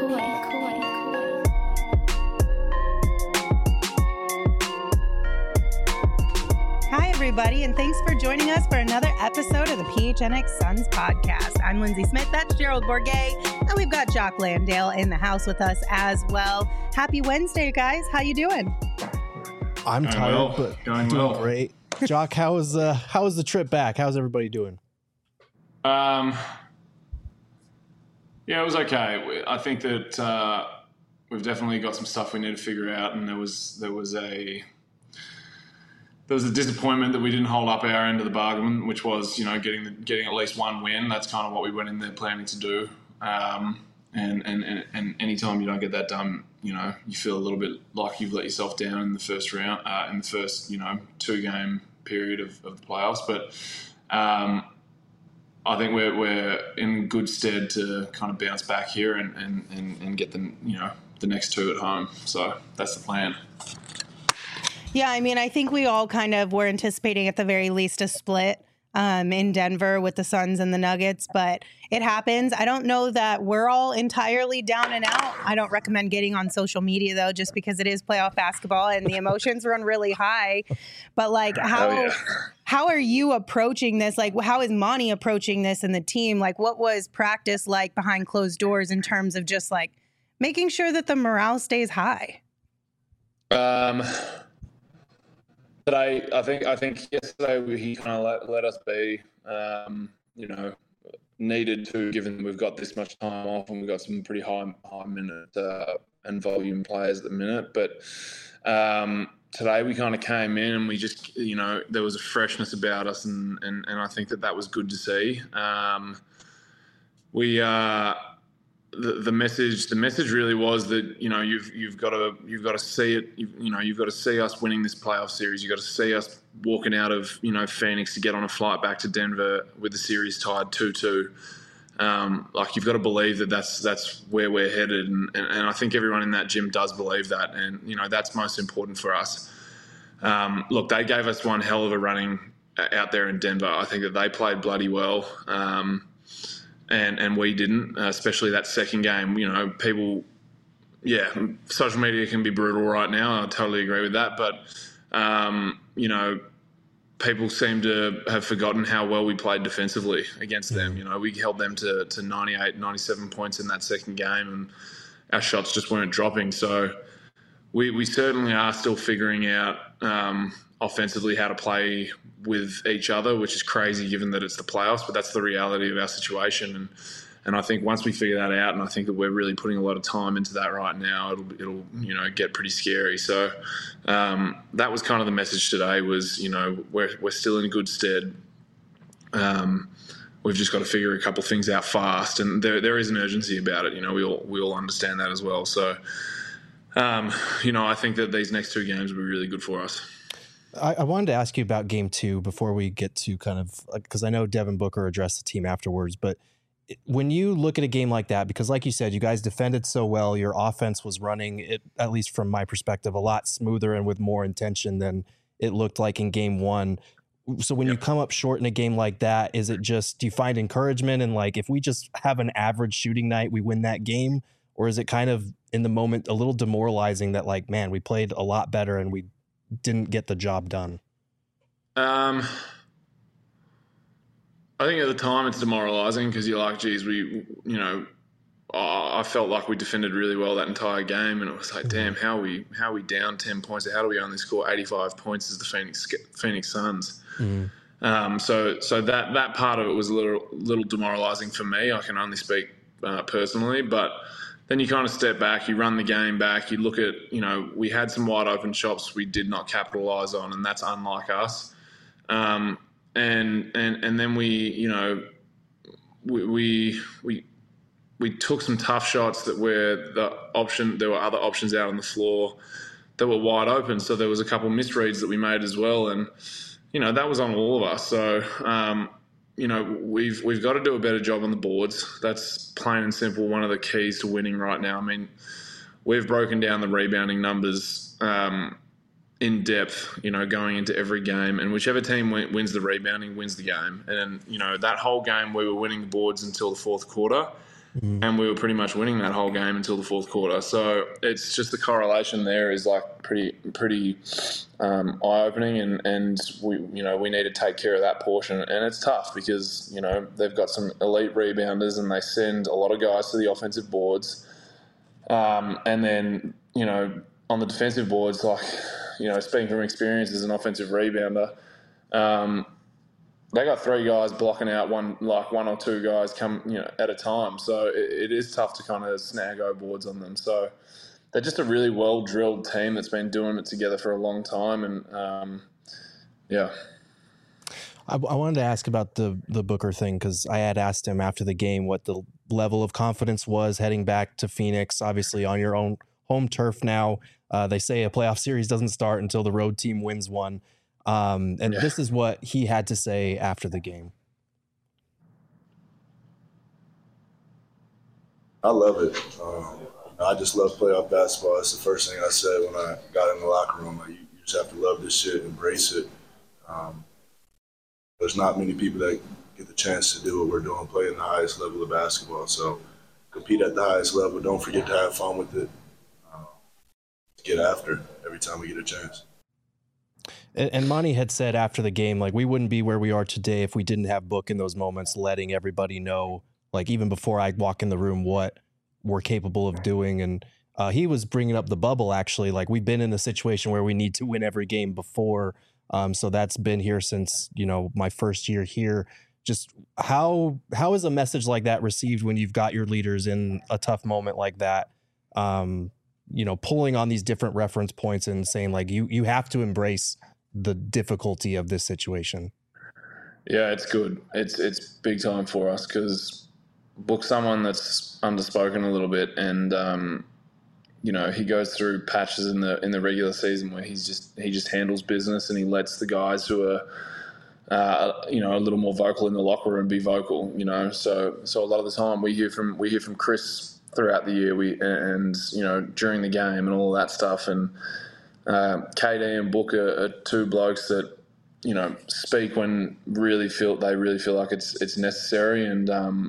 Hi, everybody, and thanks for joining us for another episode of the PHNX Suns podcast. I'm Lindsay Smith, that's Gerald Bourguet, and we've got Jock Landale in the house with us as well. Happy Wednesday, guys. How you doing? I'm tired, but doing great. Jock, how was the trip back? How's everybody doing? Yeah, it was okay. I think that we've definitely got some stuff we need to figure out, and there was a disappointment that we didn't hold up our end of the bargain, which was, you know, getting at least one win. That's kind of what we went in there planning to do. And anytime you don't get that done, you know, you feel a little bit like you've let yourself down in the first round, in the first, you know, 2-game period of the playoffs. But I think we're in good stead to kind of bounce back here and get them, you know, the next 2 at home. So that's the plan. Yeah, I mean, I think we all kind of were anticipating at the very least a split in Denver with the Suns and the Nuggets, but it happens. I don't know that we're all entirely down and out. I don't recommend getting on social media, though, just because it is playoff basketball and the emotions run really high. But, like, how are you approaching this? Like, how is Monty approaching this and the team? Like, what was practice like behind closed doors in terms of just, like, making sure that the morale stays high? Today, I think yesterday he kind of let us be, you know, needed to, given we've got this much time off and we've got some pretty high minute and volume players at the minute. But today we kind of came in and we just, you know, there was a freshness about us, and I think that was good to see. The message really was that, you know, you've got to see it. You've got to see us winning this playoff series. You've got to see us walking out of, you know, Phoenix to get on a flight back to Denver with the series tied 2-2. Like, you've got to believe that's where we're headed, and I think everyone in that gym does believe that, and, you know, that's most important for us. Look, they gave us one hell of a running out there in Denver. I think that they played bloody well. And we didn't, especially that second game. You know, people, social media can be brutal right now. I totally agree with that. But, you know, people seem to have forgotten how well we played defensively against them. You know, we held them to 98, 97 points in that second game, and our shots just weren't dropping. So we certainly are still figuring out offensively how to play with each other, which is crazy given that it's the playoffs, but that's the reality of our situation. And I think once we figure that out, and I think that we're really putting a lot of time into that right now, it'll you know, get pretty scary. So that was kind of the message today was, you know, we're still in good stead. We've just got to figure a couple of things out fast, and there is an urgency about it. You know, we all understand that as well. So, you know, I think that these next 2 games will be really good for us. I wanted to ask you about game 2 before we get to kind of, because I know Devin Booker addressed the team afterwards, but when you look at a game like that, because like you said, you guys defended so well, your offense was running, it, at least from my perspective, a lot smoother and with more intention than it looked like in game 1. So when you come up short in a game like that, is it just, do you find encouragement and, like, if we just have an average shooting night, we win that game? Or is it kind of in the moment a little demoralizing that, like, man, we played a lot better and we didn't get the job done? I think at the time it's demoralizing because you're like, geez, I felt like we defended really well that entire game, and it was like, damn, how are we down 10 points? How do we only score 85 points as the Phoenix Suns? Mm-hmm. So that part of it was a little demoralizing for me. I can only speak personally, but then you kind of step back, you run the game back, you look at, you know, we had some wide open shots we did not capitalize on, and that's unlike us. And then we, you know, we took some tough shots that were there were other options out on the floor that were wide open. So there was a couple of misreads that we made as well, and, you know, that was on all of us. So, you know, we've got to do a better job on the boards. That's plain and simple one of the keys to winning right now. I mean, we've broken down the rebounding numbers in depth, you know, going into every game, and whichever team wins the rebounding wins the game. And, you know, that whole game we were winning the boards until the fourth quarter, and we were pretty much winning that whole game until the fourth quarter. So it's just the correlation there is like pretty eye-opening, and we need to take care of that portion. And it's tough because they've got some elite rebounders and they send a lot of guys to the offensive boards, and then on the defensive boards, like speaking from experience as an offensive rebounder. They got three guys blocking out one or two guys come at a time, so it is tough to kind of snag boards on them. So they're just a really well drilled team that's been doing it together for a long time, and yeah. I wanted to ask about the Booker thing because I had asked him after the game what the level of confidence was heading back to Phoenix, obviously on your own home turf now. They say a playoff series doesn't start until the road team wins one. This is what he had to say after the game. I love it. I just love playoff basketball. It's the first thing I said when I got in the locker room. You just have to love this shit, embrace it. There's not many people that get the chance to do what we're doing, play in the highest level of basketball. So compete at the highest level. Don't forget to have fun with it. Get after it every time we get a chance. And Monty had said after the game, like, we wouldn't be where we are today if we didn't have Book in those moments, letting everybody know, like, even before I walk in the room, what we're capable of doing. And he was bringing up the bubble, actually. Like, we've been in a situation where we need to win every game before. So that's been here since, my first year here. Just how is a message like that received when you've got your leaders in a tough moment like that? Pulling on these different reference points and saying, like, you have to embrace the difficulty of this situation. Yeah, it's good. It's big time for us because Book's someone that's underspoken a little bit, and he goes through patches in the regular season where he just handles business, and he lets the guys who are a little more vocal in the locker room be vocal. So a lot of the time we hear from Chris throughout the year, during the game and all of that stuff, and KD and Book are two blokes that speak when they really feel like it's necessary, and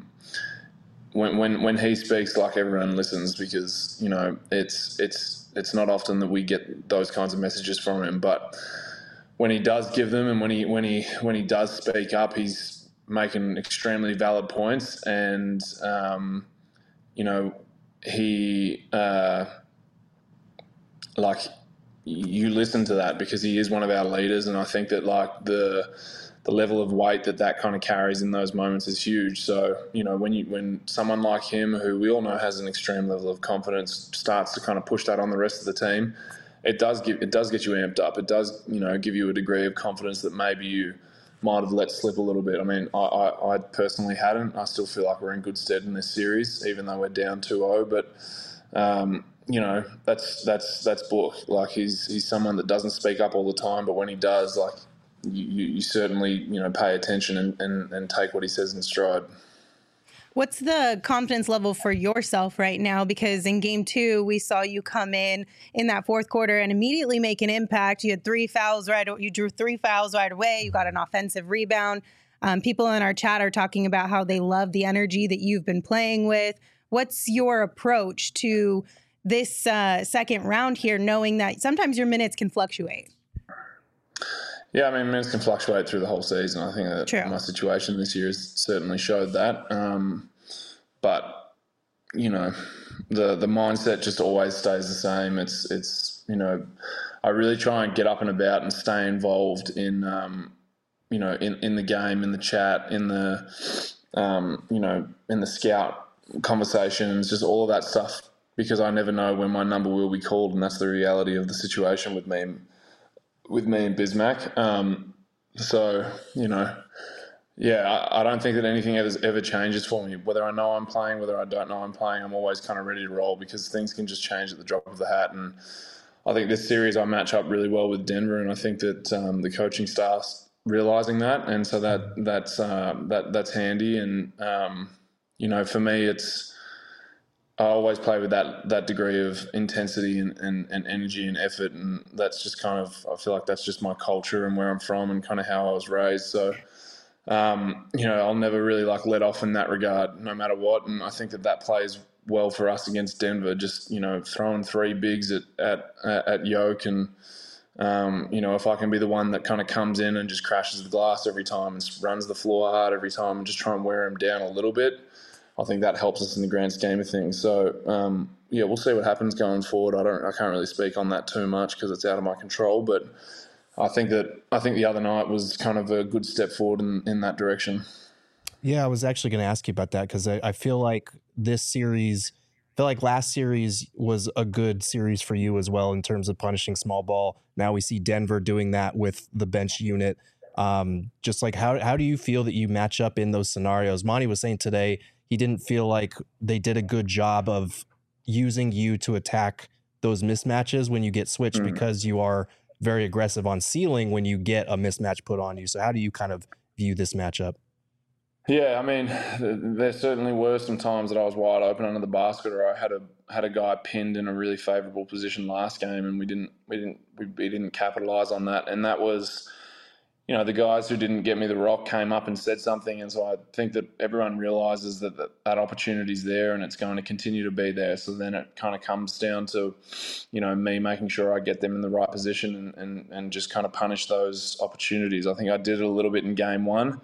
when he speaks, like, everyone listens because it's not often that we get those kinds of messages from him, but when he does give them and when he does speak up, he's making extremely valid points, and he you listen to that because he is one of our leaders, and I think that, like, the level of weight that kind of carries in those moments is huge. So when someone like him, who we all know has an extreme level of confidence, starts to kind of push that on the rest of the team, it does get you amped up. It does give you a degree of confidence that maybe you might have let slip a little bit. I mean, I personally hadn't. I still feel like we're in good stead in this series, even though we're down 2-0. But that's Book. Like, he's someone that doesn't speak up all the time, but when he does, like, you certainly pay attention and take what he says in stride. What's the confidence level for yourself right now? Because in game 2, we saw you come in that fourth quarter and immediately make an impact. You had 3 fouls you drew 3 fouls right away. You got an offensive rebound. People in our chat are talking about how they love the energy that you've been playing with. What's your approach to this second round here, knowing that sometimes your minutes can fluctuate? Yeah, I mean, minutes can fluctuate through the whole season. I think that True. My situation this year has certainly showed that. But the mindset just always stays the same. It's I really try and get up and about and stay involved in in the game, in the chat, in the in the scout conversations, just all of that stuff, because I never know when my number will be called, and that's the reality of the situation with me and Bismack. So I don't think that anything ever changes for me. Whether I know I'm playing, whether I don't know I'm playing, I'm always kind of ready to roll because things can just change at the drop of the hat. And I think this series I match up really well with Denver, and I think that the coaching staff's realizing that, and so that's handy. And for me, I always play with that degree of intensity and energy and effort, and that's just kind of, I feel like that's just my culture and where I'm from and kind of how I was raised. So I'll never really let off in that regard, no matter what. And I think that plays well for us against Denver. Just throwing three bigs at Yoke, and if I can be the one that kind of comes in and just crashes the glass every time and runs the floor hard every time and just try and wear him down a little bit, I think that helps us in the grand scheme of things. So we'll see what happens going forward. I can't really speak on that too much because it's out of my control, but I think the other night was kind of a good step forward in that direction. Yeah, I was actually going to ask you about that because I feel like last series was a good series for you as well in terms of punishing small ball. Now we see Denver doing that with the bench unit. Just how do you feel that you match up in those scenarios? Monty was saying today he didn't feel like they did a good job of using you to attack those mismatches when you get switched because you are very aggressive on sealing when you get a mismatch put on you. So how do you kind of view this matchup? Yeah, I mean, there certainly were some times that I was wide open under the basket, or I had a guy pinned in a really favourable position last game, and we didn't capitalize on that. And that was, the guys who didn't get me the rock came up and said something, and so I think that everyone realizes that opportunity's there, and it's going to continue to be there. So then it kind of comes down to, me making sure I get them in the right position and just kind of punish those opportunities. I think I did it a little bit in game one.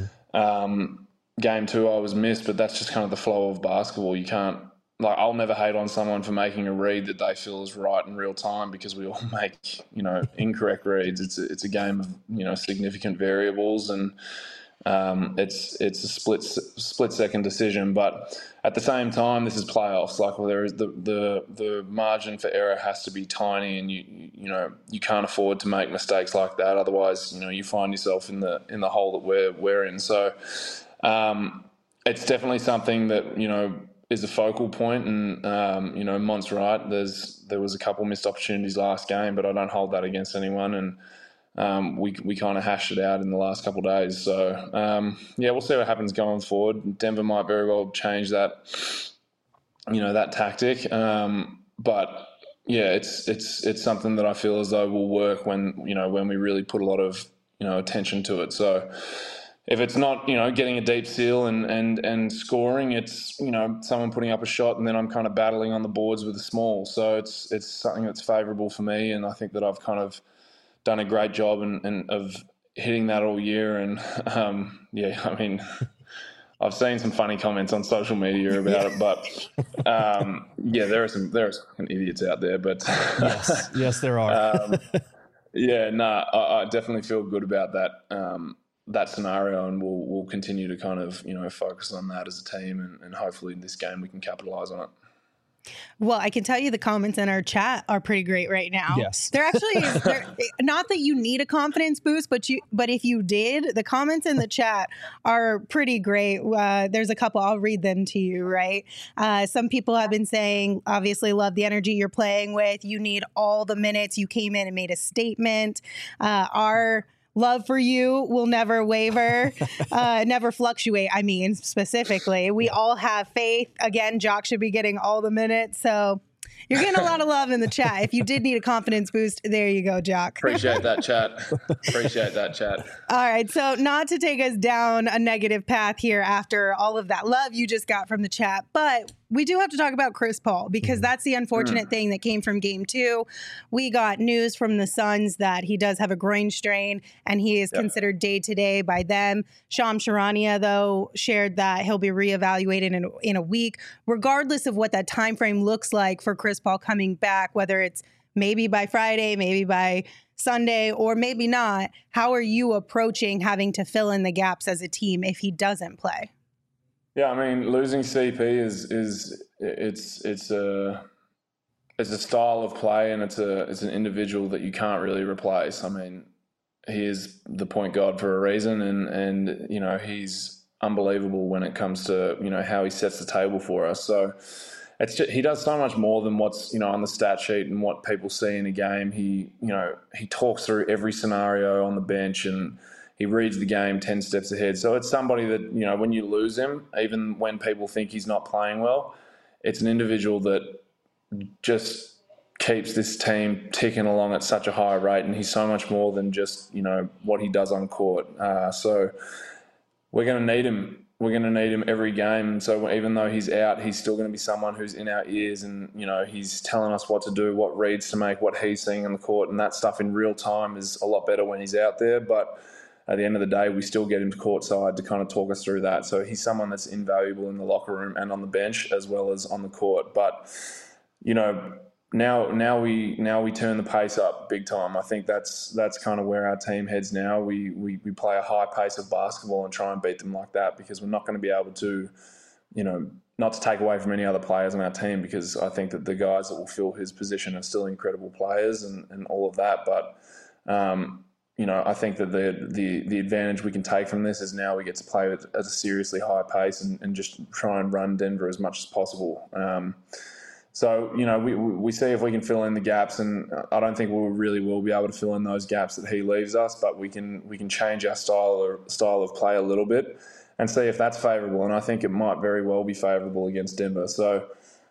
Game two, I was missed, but that's just kind of the flow of basketball. You can't, I'll never hate on someone for making a read that they feel is right in real time, because we all make, incorrect reads. It's a game of, significant variables, and it's a split second decision. But at the same time, this is playoffs. There is the margin for error has to be tiny, and you can't afford to make mistakes like that. Otherwise, you find yourself in the hole that we're in. So it's definitely something that is a focal point, and Mont's right. There was a couple missed opportunities last game, but I don't hold that against anyone, and we kind of hashed it out in the last couple of days. So we'll see what happens going forward. Denver might very well change that that tactic, but yeah, it's something that I feel as though will work when we really put a lot of attention to it. So if it's not, getting a deep seal and scoring, it's, someone putting up a shot, and then I'm kind of battling on the boards with a small. So it's something that's favourable for me, and I think that I've kind of done a great job and of hitting that all year. And I've seen some funny comments on social media about it, but there are some idiots out there. But yes, there are. I definitely feel good about that scenario, and we'll continue to kind of focus on that as a team, and hopefully in this game we can capitalize on it. Well, I can tell you the comments in our chat are pretty great right now. Yes. They're actually not that you need a confidence boost, but if you did, the comments in the chat are pretty great. There's a couple, I'll read them to you, right? Some people have been saying, obviously love the energy you're playing with. You need all the minutes. You came in and made a statement. Our love for you will never waver, never fluctuate. I mean, specifically, we all have faith. Again, Jock should be getting all the minutes. So you're getting a lot of love in the chat. If you did need a confidence boost, there you go, Jock. Appreciate that, chat. All right. So not to take us down a negative path here after all of that love you just got from the chat, but we do have to talk about Chris Paul, because that's the unfortunate thing that came from game two. We got news from the Suns that he does have a groin strain, and he is considered day-to-day by them. Shams Charania, though, shared that he'll be reevaluated in a week, regardless of what that time frame looks like for Chris Paul coming back, whether it's maybe by Friday, maybe by Sunday, or maybe not. How are you approaching having to fill in the gaps as a team if he doesn't play? Yeah, I mean, losing CP is a style of play, and it's an individual that you can't really replace. I mean, he is the point guard for a reason, and he's unbelievable when it comes to how he sets the table for us. So he does so much more than what's on the stat sheet and what people see in a game. He talks through every scenario on the bench, and he reads the game 10 steps ahead. So it's somebody that, when you lose him, even when people think he's not playing well, it's an individual that just keeps this team ticking along at such a high rate. And he's so much more than just, what he does on court. So we're going to need him. We're going to need him every game. So even though he's out, he's still going to be someone who's in our ears, and he's telling us what to do, what reads to make, what he's seeing on the court, and that stuff in real time is a lot better when he's out there. But at the end of the day, we still get him courtside to kind of talk us through that. So he's someone that's invaluable in the locker room and on the bench as well as on the court. But now we turn the pace up big time. I think that's kind of where our team heads now. We play a high pace of basketball and try and beat them like that, because we're not going to be able to, not to take away from any other players on our team, because I think that the guys that will fill his position are still incredible players and all of that. But I think that the advantage we can take from this is now we get to play at a seriously high pace and just try and run Denver as much as possible. So, we see if we can fill in the gaps, and I don't think we really will be able to fill in those gaps that he leaves us, but we can change our style of play a little bit and see if that's favourable. And I think it might very well be favourable against Denver. So,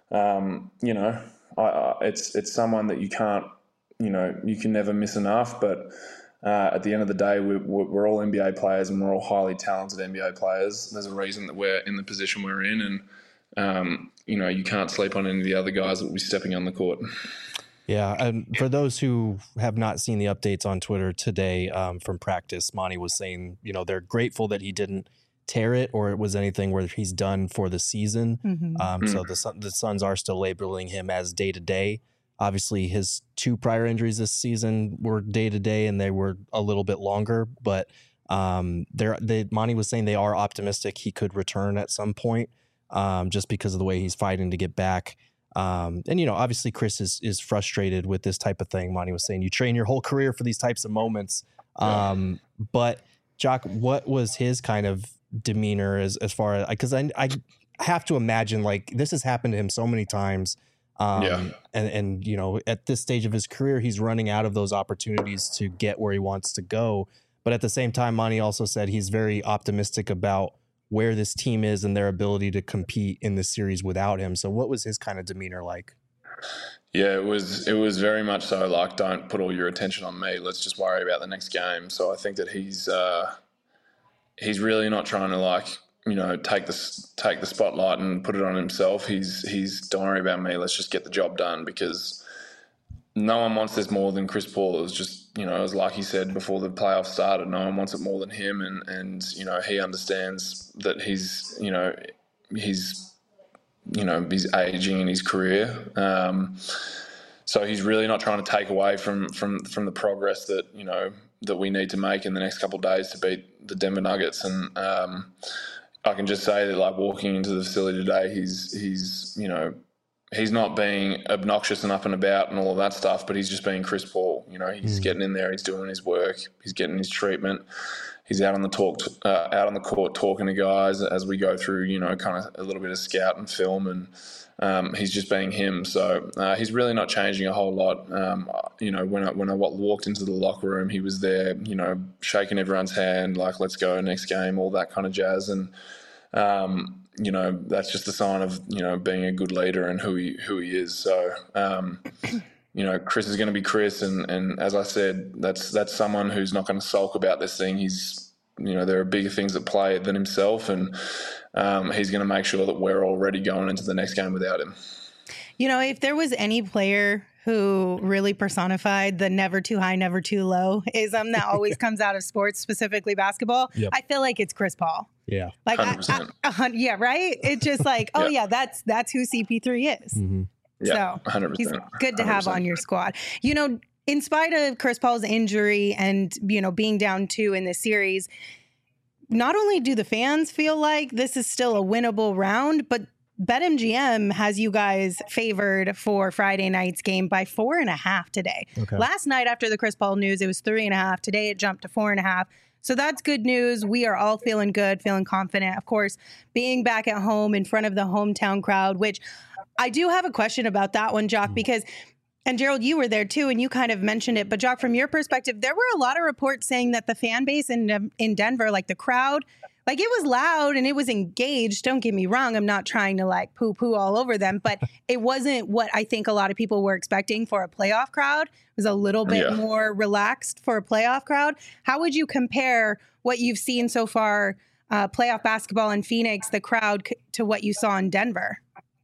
it's someone that you can't, you can never miss enough. But at the end of the day, we're all NBA players, and we're all highly talented NBA players. There's a reason that we're in the position we're in, and you can't sleep on any of the other guys that will be stepping on the court. Yeah, and for those who have not seen the updates on Twitter today from practice, Monty was saying, they're grateful that he didn't tear it or it was anything where he's done for the season. Mm-hmm. So the Suns are still labeling him as day-to-day. Obviously, his 2 prior injuries this season were day-to-day, and they were a little bit longer. But Monty was saying they are optimistic he could return at some point. Just because of the way he's fighting to get back. And, obviously Chris is frustrated with this type of thing. Monty was saying you train your whole career for these types of moments. But Jock, what was his kind of demeanor as far as, because I have to imagine like this has happened to him so many times. And at this stage of his career, he's running out of those opportunities to get where he wants to go. But at the same time, Monty also said he's very optimistic about where this team is and their ability to compete in this series without him. So what was his kind of demeanor like? Yeah, it was very much so like, don't put all your attention on me. Let's just worry about the next game. So I think that he's really not trying to take the spotlight and put it on himself. He's don't worry about me. Let's just get the job done, because no one wants this more than Chris Paul. It was just, as like he said before the playoffs started, no one wants it more than him. And he understands that he's aging in his career. So he's really not trying to take away from the progress that, that we need to make in the next couple of days to beat the Denver Nuggets. And I can just say that, like, walking into the facility today, he's not being obnoxious and up and about and all of that stuff, but he's just being Chris Paul. He's getting in there, he's doing his work, he's getting his treatment, he's out on the court talking to guys as we go through, kind of a little bit of scout and film, and he's just being him. So he's really not changing a whole lot. When I walked into the locker room, he was there, shaking everyone's hand, like, let's go, next game, all that kind of jazz. And that's just a sign of, being a good leader and who he is. So, Chris is going to be Chris. And as I said, that's someone who's not going to sulk about this thing. He's, there are bigger things at play than himself. And he's going to make sure that we're already going into the next game without him. If there was any player who really personified the never too high, never too low ism that always comes out of sports, specifically basketball, yep, I feel like it's Chris Paul. Yeah. Like, yeah, right? It's just like, oh, yeah, that's who CP3 is. Mm-hmm. Yeah, so 100%. He's good to have on your squad. In spite of Chris Paul's injury and, being down 2 in this series, not only do the fans feel like this is still a winnable round, but BetMGM has you guys favored for Friday night's game by 4.5 today. Okay. Last night after the Chris Paul news, it was 3.5. Today it jumped to 4.5. So that's good news. We are all feeling good, feeling confident. Of course, being back at home in front of the hometown crowd, which I do have a question about that one, Jock, because, and Gerald, you were there too, and you kind of mentioned it. But Jock, from your perspective, there were a lot of reports saying that the fan base in Denver, like the crowd, like it was loud and it was engaged. Don't get me wrong. I'm not trying to like poo-poo all over them, but it wasn't what I think a lot of people were expecting for a playoff crowd. It was a little bit more relaxed for a playoff crowd. How would you compare what you've seen so far playoff basketball in Phoenix, the crowd, to what you saw in Denver?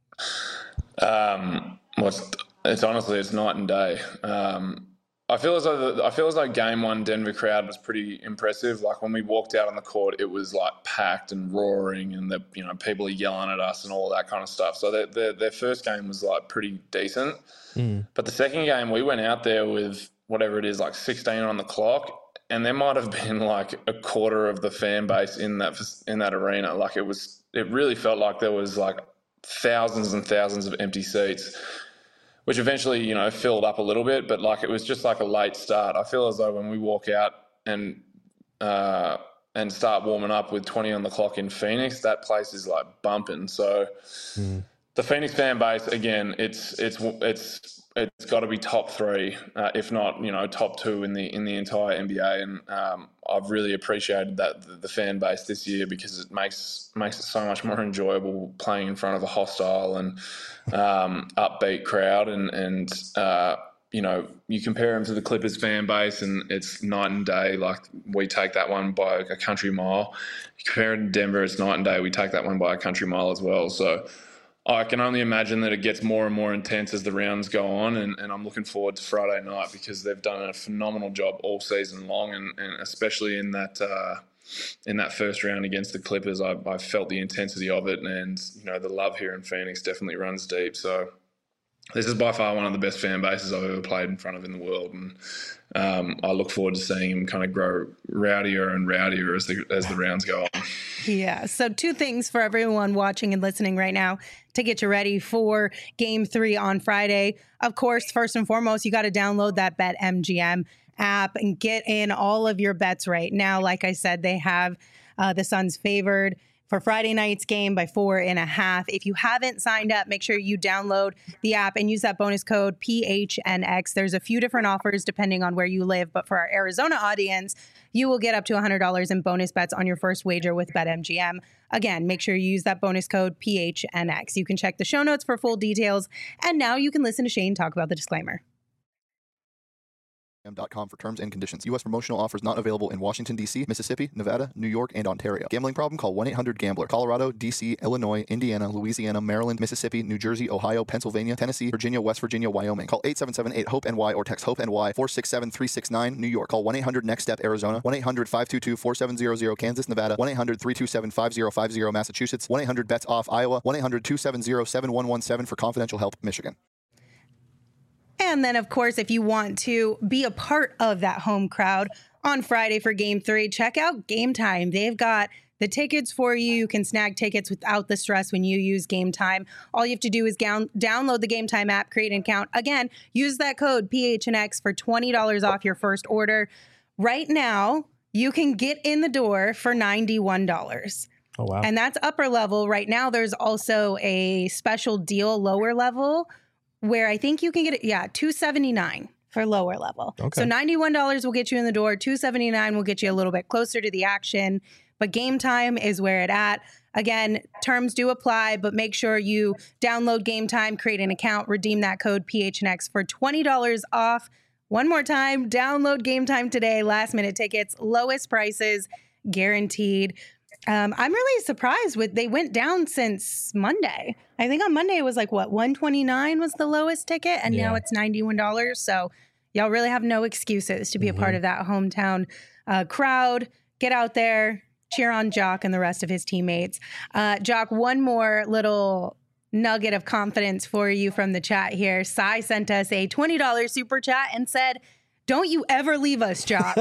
It's honestly, it's night and day. I feel as though game one Denver crowd was pretty impressive. Like when we walked out on the court, it was like packed and roaring, and people are yelling at us and all that kind of stuff. So their first game was like pretty decent. But the second game, we went out there with whatever it is, like 16 on the clock, and there might have been like a quarter of the fan base in that arena. Like it really felt like there was like thousands and thousands of empty seats, which eventually, filled up a little bit, but like it was just like a late start. I feel as though when we walk out and start warming up with 20 on the clock in Phoenix, that place is like bumping. So the Phoenix fan base, again, it's got to be top three, if not, top two in the entire NBA. And I've really appreciated that the fan base this year, because it makes it so much more enjoyable playing in front of a hostile and upbeat crowd. And you compare them to the Clippers fan base, and it's night and day. Like we take that one by a country mile. You compare it to Denver, it's night and day. We take that one by a country mile as well. So I can only imagine that it gets more and more intense as the rounds go on, and I'm looking forward to Friday night, because they've done a phenomenal job all season long, and especially in that first round against the Clippers, I felt the intensity of it, and the love here in Phoenix definitely runs deep. So this is by far one of the best fan bases I've ever played in front of in the world, and I look forward to seeing him kind of grow rowdier and rowdier as the rounds go on. Yeah. So 2 things for everyone watching and listening right now to get you ready for Game 3 on Friday. Of course, first and foremost, you got to download that BetMGM app and get in all of your bets right now. Like I said, they have the Suns favored for Friday night's game by 4.5. If you haven't signed up, make sure you download the app and use that bonus code PHNX. There's a few different offers depending on where you live, but for our Arizona audience, you will get up to $100 in bonus bets on your first wager with BetMGM. Again, make sure you use that bonus code PHNX. You can check the show notes for full details. And now you can listen to Shane talk about the disclaimer. .com for terms and conditions. U.S. promotional offers not available in Washington, D.C., Mississippi, Nevada, New York, and Ontario. Gambling problem? Call 1-800-GAMBLER. Colorado, D.C., Illinois, Indiana, Louisiana, Maryland, Mississippi, New Jersey, Ohio, Pennsylvania, Tennessee, Virginia, West Virginia, Wyoming. Call 877-8-HOPE-NY or text HOPE-NY 467-369, New York. Call 1-800-NEXT-STEP, Arizona. 1-800-522-4700, Kansas, Nevada. 1-800-327-5050, Massachusetts. 1-800-BETS-OFF, Iowa. 1-800-270-7117 for confidential help, Michigan. And then, of course, if you want to be a part of that home crowd on Friday for Game 3, check out Game Time. They've got the tickets for you. You can snag tickets without the stress when you use Game Time. All you have to do is download the Game Time app, create an account. Again, use that code PHNX for $20 off your first order. Right now, you can get in the door for $91. Oh, wow. And that's upper level. Right now, there's also a special deal, lower level, where I think you can get it, $279 for lower level. Okay. So $91 will get you in the door. $279 will get you a little bit closer to the action. But Game Time is where it's at. Again, terms do apply, but make sure you download Game Time, create an account, redeem that code PHNX for $20 off. One more time, download Game Time today. Last minute tickets, lowest prices guaranteed. I'm really surprised they went down since Monday. I think on Monday it was like, $129 was the lowest ticket, and now it's $91. So y'all really have no excuses to be a part of that hometown crowd. Get out there, cheer on Jock and the rest of his teammates. Jock, one more little nugget of confidence for you from the chat here. Sai sent us a $20 super chat and said, "Don't you ever leave us, Jock."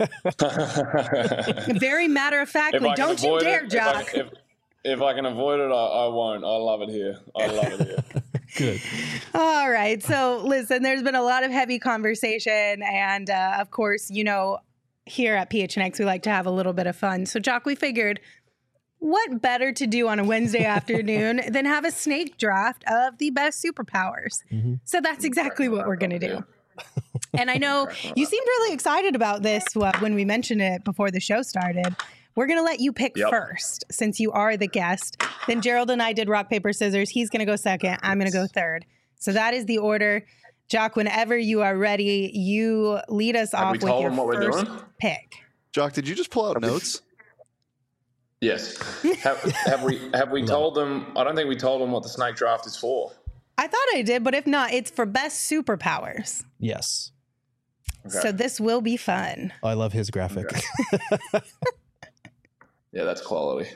Very matter-of-factly, don't you dare, Jock. If I can avoid it, I won't. I love it here. Good. All right. So listen, there's been a lot of heavy conversation. And of course, here at PHNX, we like to have a little bit of fun. So Jock, we figured what better to do on a Wednesday afternoon than have a snake draft of the best superpowers. Mm-hmm. So that's exactly what we're going to do. And I know you seemed really excited about this when we mentioned it before the show started. We're going to let you pick first since you are the guest. Then Gerald and I did rock, paper, scissors. He's going to go second. I'm going to go third. So that is the order. Jock, whenever you are ready, you lead us off with your first pick. Have we told him what we're doing? Jock, did you just pull out notes? I did. Jock, did you just pull out notes? Have we told him what we're doing? Jock, did you just pull out notes? Jock, did you just pull out notes? Yes. Have we told them? I don't think we told them what the snake draft is for. I thought I did, but if not, it's for best superpowers. Yes. Okay. So this will be fun. Oh, I love his graphic. Okay. Yeah, that's quality.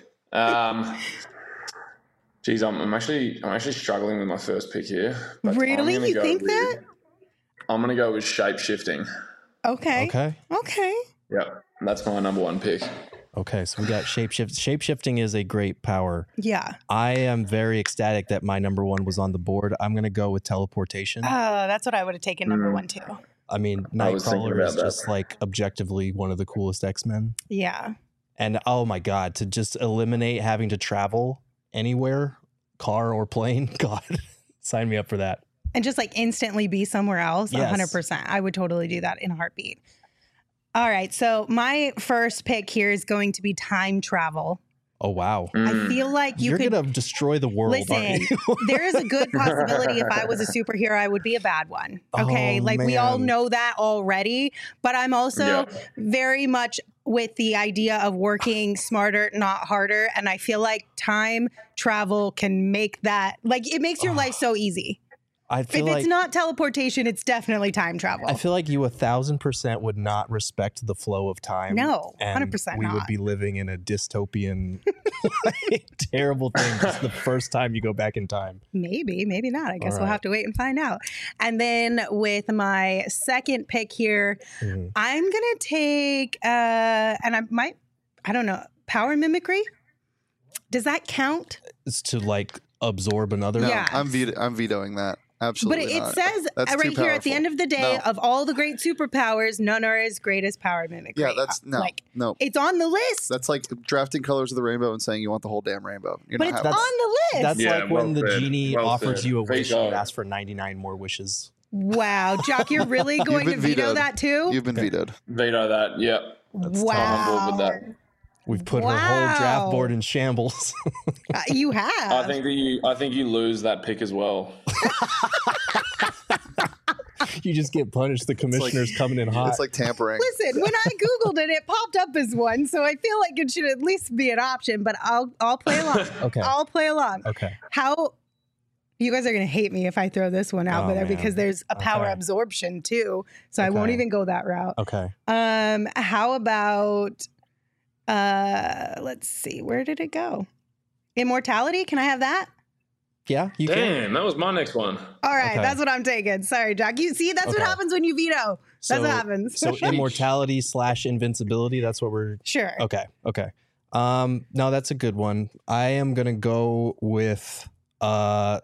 Geez, I'm actually struggling with my first pick here. But Really? You think that? I'm gonna go with shape shifting. Okay. Okay. Yep, that's my number one pick. Okay, so we got shapeshift. Shapeshifting is a great power. Yeah. I am very ecstatic that my number one was on the board. I'm going to go with teleportation. Oh, that's what I would have taken number one too. I mean, was thinking Nightcrawler about is that. just like objectively one of the coolest X-Men. Yeah. And oh my God, to just eliminate having to travel anywhere, car or plane. God, sign me up for that. And just like instantly be somewhere else. Yes. 100%. I would totally do that in a heartbeat. All right. So my first pick here is going to be time travel. Oh, wow. I feel like You're could going to destroy the world, aren't listen. you? There is a good possibility if I was a superhero, I would be a bad one. Okay. Oh, like we all man. know that already. But I'm also Yeah. very much with the idea of working smarter, not harder. And I feel like time travel can make that, like, it makes your life so easy. I feel If like it's not teleportation, it's definitely time travel. I feel like you 1,000% would not respect the flow of time. No, and 100% we would not. be living in a dystopian, like, terrible thing just the first time you go back in time. Maybe, maybe not. I guess All we'll right. have to wait and find out. And then with my second pick here, Mhm. I'm going to take, and I don't know, power mimicry? Does that count? It's to like absorb another. No, Yeah. I'm vetoing that. Absolutely But it not. says That's right too here at the powerful. end of the day, No. of all the great superpowers, none are as great as power mimicry. Yeah, that's no, Like, no. it's on the list, That's like drafting colors of the rainbow and saying you want the whole damn rainbow. You're but not it's having on it. the list. That's Yeah, like when well the said. genie Well offers said. you a wish, Veto. you ask for 99 more wishes. Wow, Jock, you're really going to been veto vetoed. that too? You've been vetoed. Veto that. Yep. Wow. I'm on board with that. We've put her whole draft board in shambles. You have. I think you lose that pick as well. You just get punished. The commissioner's coming in hot. It's like tampering. Listen, when I Googled it, it popped up as one. So I feel like it should at least be an option, but I'll play along. Okay. I'll play along. Okay. How you guys are going to hate me if I throw this one out Oh, there man. because there's a power Okay. absorption too. So I won't Okay. even go that route. Okay. How about let's see, where did it go? Immortality? Can I have that? Yeah, you can. Damn, that was my next one. All right, Okay. that's what I'm taking. Sorry, Jack. You see, that's what Okay. happens when you veto. That's what happens. So immortality / invincibility. That's what we're. Sure. Okay. Okay. No, that's a good one. I am gonna go with. I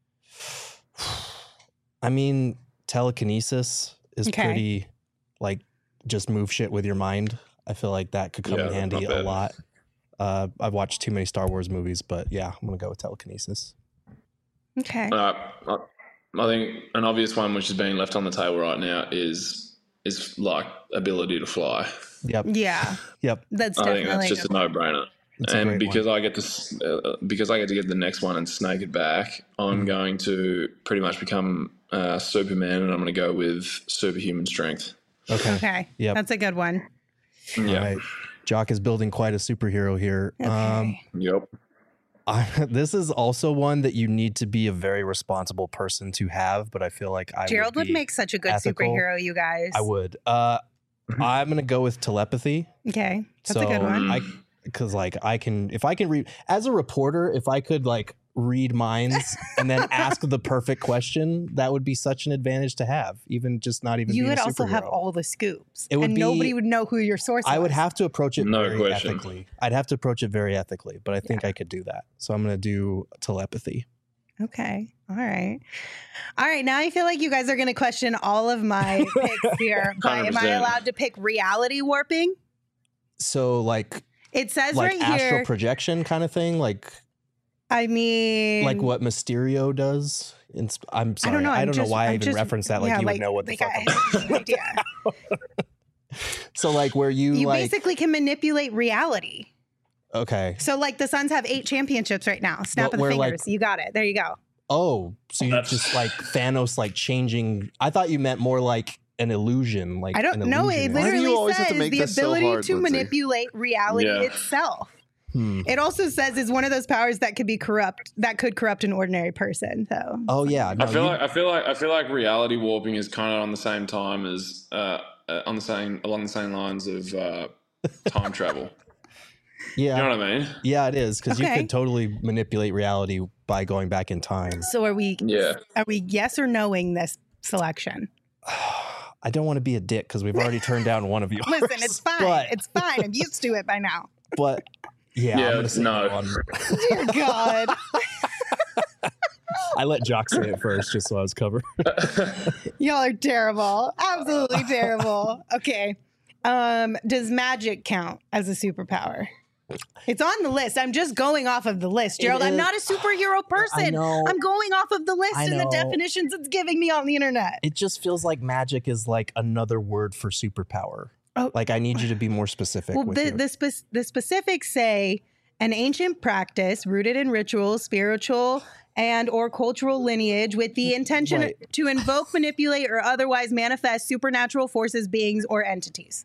mean, telekinesis is Okay. pretty, like, just move shit with your mind. I feel like that could come Yeah, in handy not a bad. lot. I've watched too many Star Wars movies, but yeah, I'm gonna go with telekinesis. Okay. I think an obvious one which is being left on the table right now is like ability to fly. Yep. Yeah, Yep. that's I think definitely that's just a no-brainer. It's a And great because I get to get the next one and snake it back, I'm going to pretty much become Superman, and I'm going to go with superhuman strength. Okay. okay. Yep. That's a good one. All Yeah. right. Jock is building quite a superhero here. Okay. Yep. This is also one that you need to be a very responsible person to have, but I feel like Gerald would be make such a good ethical. superhero, you guys. I would. I'm gonna go with telepathy. Okay, that's so a good one. because like if I can read as a reporter, if I could like read minds and then ask the perfect question, that would be such an advantage to have. Even just not even. You being would a also have superhero. all the scoops, It would and be- nobody would know who your source was. I would have to approach it No very question. ethically. I'd have to approach it very ethically, but I think I could do that. So I'm gonna do telepathy. Okay. All right. All right. Now I feel like you guys are going to question all of my picks here. But am I 100%. allowed to pick reality warping? So like It says like right astral here. projection kind of thing, like what Mysterio does. I'm sorry, I don't know why I even referenced that. Like you would know what the fuck. I have no idea. So like where you You like basically can manipulate reality. okay. So like the Suns have 8 championships right now. Snap Well, of the we're, like- fingers. You got it. There you go. Oh, so you That's- just like Thanos like changing. I thought you meant more like an illusion. Like I don't an know. It illusionist. Why do you literally always have to says make the this so ability hard, to Lindsay? manipulate reality Yeah. itself. It also says it's one of those powers that could corrupt an ordinary person. So. Oh yeah. No, I feel like reality warping is kind of on the same time as along the same lines of time travel. Yeah. You know what I mean? Yeah, it is, because you Okay. could totally manipulate reality by going back in time. So are we Yeah. yes or noing this selection? I don't want to be a dick because we've already turned down one of yours. Listen, it's fine. But, It's fine. I'm used to it by now. but yeah, Yeah, I'm gonna say no. one. Dear God. I let Jock say it first just so I was covered. Y'all are terrible. Absolutely terrible. Okay. Does magic count as a superpower? It's on the list. I'm just going off of the list, Gerald. I'm is. not a superhero person. I know. I'm going off of the list I and the know. definitions it's giving me on the internet. It just feels like magic is like another word for superpower. Oh. Like I need you to be more specific. Well, with the specifics say an ancient practice rooted in ritual, spiritual, and or cultural lineage with the intention Right. to invoke, manipulate, or otherwise manifest supernatural forces, beings, or entities.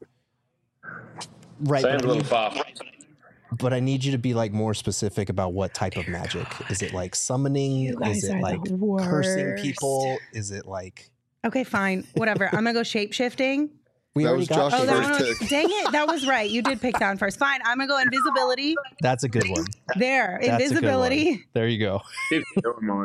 right. Sounds a little far. But I need you to be like more specific about what type of magic. Is it like summoning? You guys Is are it the like cursing worst. people? Is it like Okay, fine. Whatever. I'm going to go shape-shifting. we That already was got Josh's Oh, that first one was, pick. dang it. That was right. You did pick that one first. Fine. I'm going to go invisibility. That's a good one. There. That's a good one. Invisibility. There you go. Keep doing mine.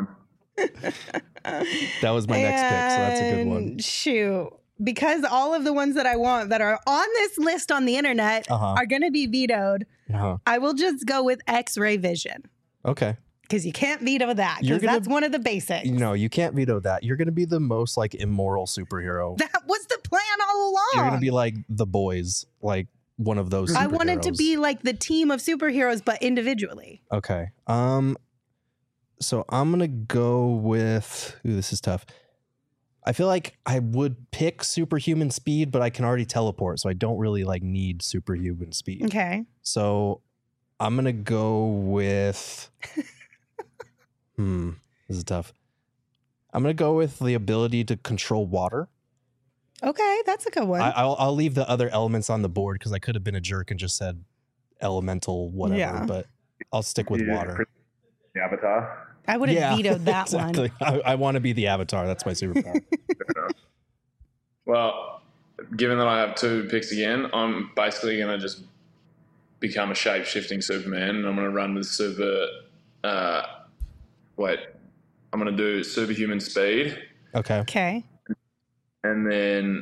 That was my next pick, so that's a good one. And shoot. Because all of the ones that I want that are on this list on the internet Uh-huh. are going to be vetoed, Uh-huh. I will just go with X-ray vision. Okay. Because you can't veto that. You're Because gonna- that's one of the basics. No, you can't veto that. You're going to be the most like immoral superhero. That was the plan all along. You're going to be like the boys, like one of those. I wanted to superheroes. be like the team of superheroes, but individually. Okay. So I'm gonna go with. Ooh, this is tough. I feel like I would pick superhuman speed, but I can already teleport, so I don't really like need superhuman speed. Okay. So I'm gonna go with. This is tough. I'm gonna go with the ability to control water. Okay, that's a good one. I'll leave the other elements on the board because I could have been a jerk and just said elemental whatever, Yeah. but I'll stick with water. The Avatar. I would have vetoed that exactly. one. I want to be the Avatar. That's my superpower. Well, given that I have two picks again, I'm basically going to just become a shape-shifting Superman, and I'm going to run with I'm going to do superhuman speed, Okay. Okay. and then,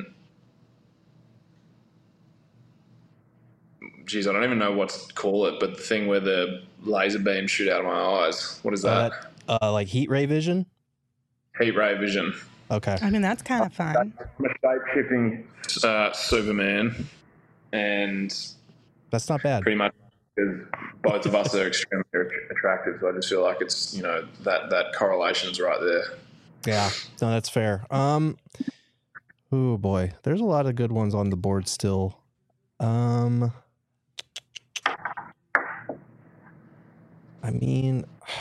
geez, I don't even know what to call it, but the thing where the laser beams shoot out of my eyes. What is that? Like heat ray vision. Heat ray vision. Okay. I mean, that's kind of fun. I'm a shape-shifting Superman, and That's not bad. pretty much because both of us are extremely attractive, so I just feel like it's, that correlation's right there. Yeah. No, that's fair. Oh boy, there's a lot of good ones on the board still. I mean,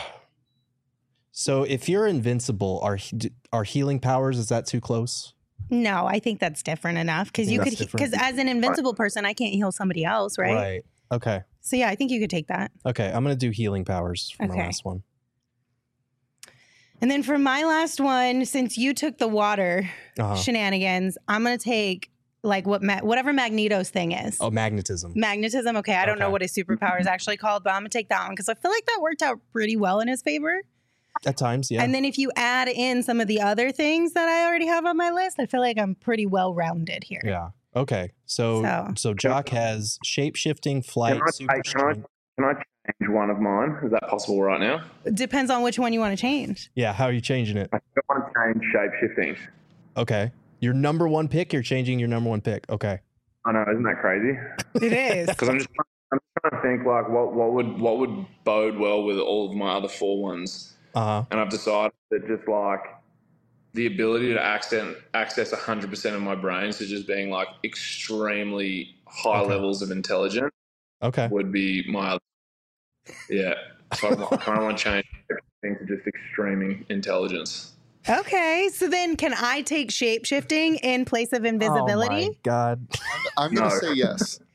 so if you're invincible, are healing powers, is that too close? No, I think that's different enough because you That's could, different. because as an invincible person, I can't heal somebody else, right? Okay. So yeah, I think you could take that. Okay. I'm gonna do healing powers for my Okay. last one. And then for my last one, since you took the water Uh-huh. shenanigans, I'm gonna take like whatever Magneto's thing is. Oh, magnetism. Magnetism. Okay, I don't know Okay. what his superpower is actually called, but I'm gonna take that one because I feel like that worked out pretty well in his favor. At times, yeah. And then if you add in some of the other things that I already have on my list, I feel like I'm pretty well rounded here. Yeah. Okay. So Jock has shape shifting, flight, super strength. Can I change one of mine? Is that possible right now? It depends on which one you want to change. Yeah. How are you changing it? I want to change shape-shifting. Okay. Your number one pick. You're changing your number one pick. Okay. I know, isn't that crazy? It is. Because I'm trying to think like what would bode well with all of my other four ones. And I've decided that just like the ability to access 100% of my brain, so just being like extremely high levels of intelligence, would be my So I kind of want to change everything to just extreme intelligence. Okay, so then can I take shape shifting in place of invisibility? Oh my God. I'm going to No. say yes.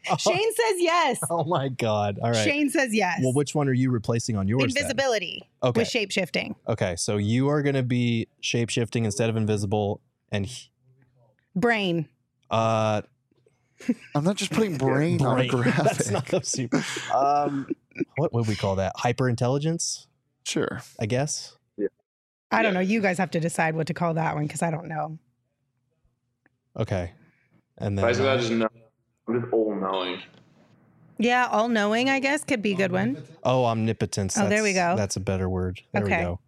Shane says yes. Oh my God. All right. Shane says yes. Well, which one are you replacing on yours? Invisibility Okay. with shape-shifting. Okay, so you are going to be shape-shifting instead of invisible, and Brain. I'm not just putting brain on a graphic. That's not a super. What would we call that? Hyper-intelligence, Sure. I guess. I don't know. You guys have to decide what to call that one because I don't know. Okay, and then Basically, I just know. I'm just all knowing. Yeah, all-knowing, I guess, could be a good one. omnipotence. Oh, there we go. That's a better word. There we Okay. go.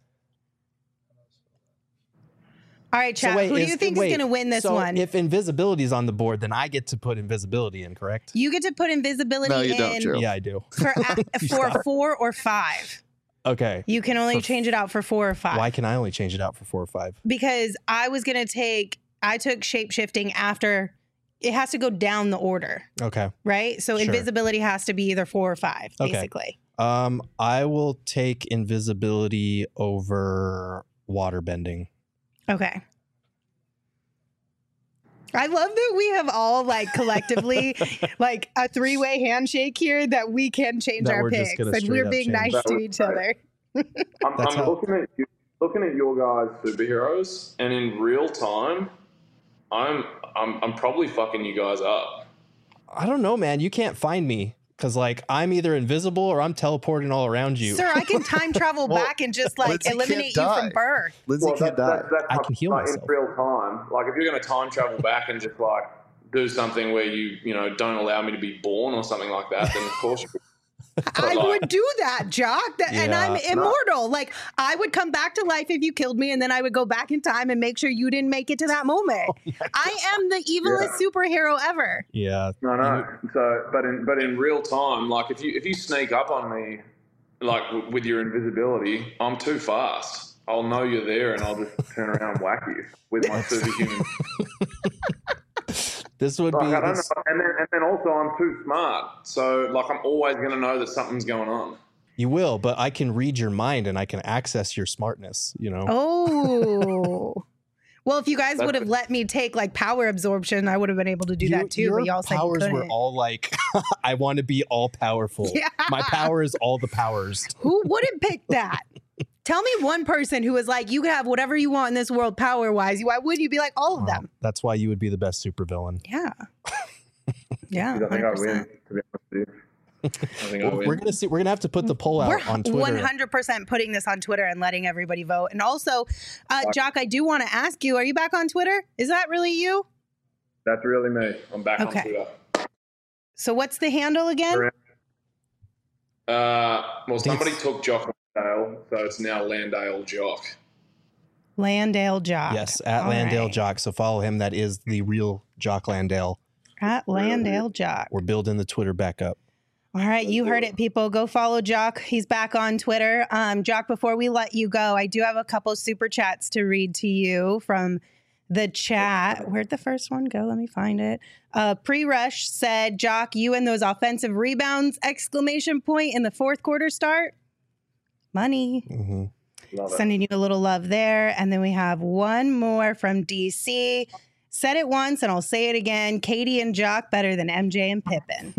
All right, chat. Who do you think is going to win this one? If invisibility is on the board, then I get to put invisibility in, correct? You get to put invisibility No, you don't, in Gerald. Yeah, I do. for 4 or 5. Okay. You can only change it out for 4 or 5. Why can I only change it out for 4 or 5? Because I took shape-shifting after. It has to go down the order, Okay. right? So Sure. invisibility has to be either 4 or 5, Okay. basically. I will take invisibility over water bending. Okay. I love that we have all collectively a 3-way handshake here that we can change That our we're just picks gonna and straight we're up being change. nice to each other. I'm That's how- looking at your guys' superheroes, and in real time, I'm probably fucking you guys up. I don't know, man. You can't find me because I'm either invisible or I'm teleporting all around you. Sir, I can time travel back and just Lindsay eliminate can't you from die. birth. Lindsay can't die. I can heal myself. in real time. Like if you're going to time travel back and just do something where you don't allow me to be born or something like that, then of course you. I would do that, Jock. And I'm Yeah. immortal. I would come back to life if you killed me, and then I would go back in time and make sure you didn't make it to that moment. I am the evilest superhero ever. Yeah. No. So, but in real time, if you sneak up on me, with your invisibility, I'm too fast. I'll know you're there, and I'll just turn around and whack you with my superhuman. This would be. I don't know. And then also I'm too smart, so I'm always going to know that something's going on. You will, but I can read your mind and I can access your smartness. Oh. Well, if you guys would have let me take power absorption, I would have been able to do that too. Your But y'all said you powers couldn't. were all I want to be all powerful. Yeah. My power is all the powers. Who wouldn't pick that? Tell me one person who was you can have whatever you want in this world power wise. Why would you be all of them? That's why you would be the best supervillain. Yeah. Yeah. I think I 100%. win. To be honest with you, I think I win. We're gonna see. We're gonna have to put the poll out We're on Twitter. 100% putting this on Twitter and letting everybody vote. And also, Jock, I do want to ask you, are you back on Twitter? Is that really you? That's really me. I'm back Okay. on Twitter. So what's the handle again? Well, somebody took Jock Landale, so it's now Landale Jock. Landale Jock. Yes, at All Landale right. Jock. So follow him. That is the real Jock Landale. At Landale Jock. We're building the Twitter back up. All right, you heard it, people. Go follow Jock. He's back on Twitter. Jock, before we let you go, I do have a couple super chats to read to you from the chat. Where'd the first one go? Let me find it. Pre-Rush said, Jock, you and those offensive rebounds, ! In the fourth quarter start. Money. Mm-hmm. Love it. Sending you a little love there. And then we have one more from DC. Said it once and I'll say it again. Katie and Jock better than MJ and Pippen.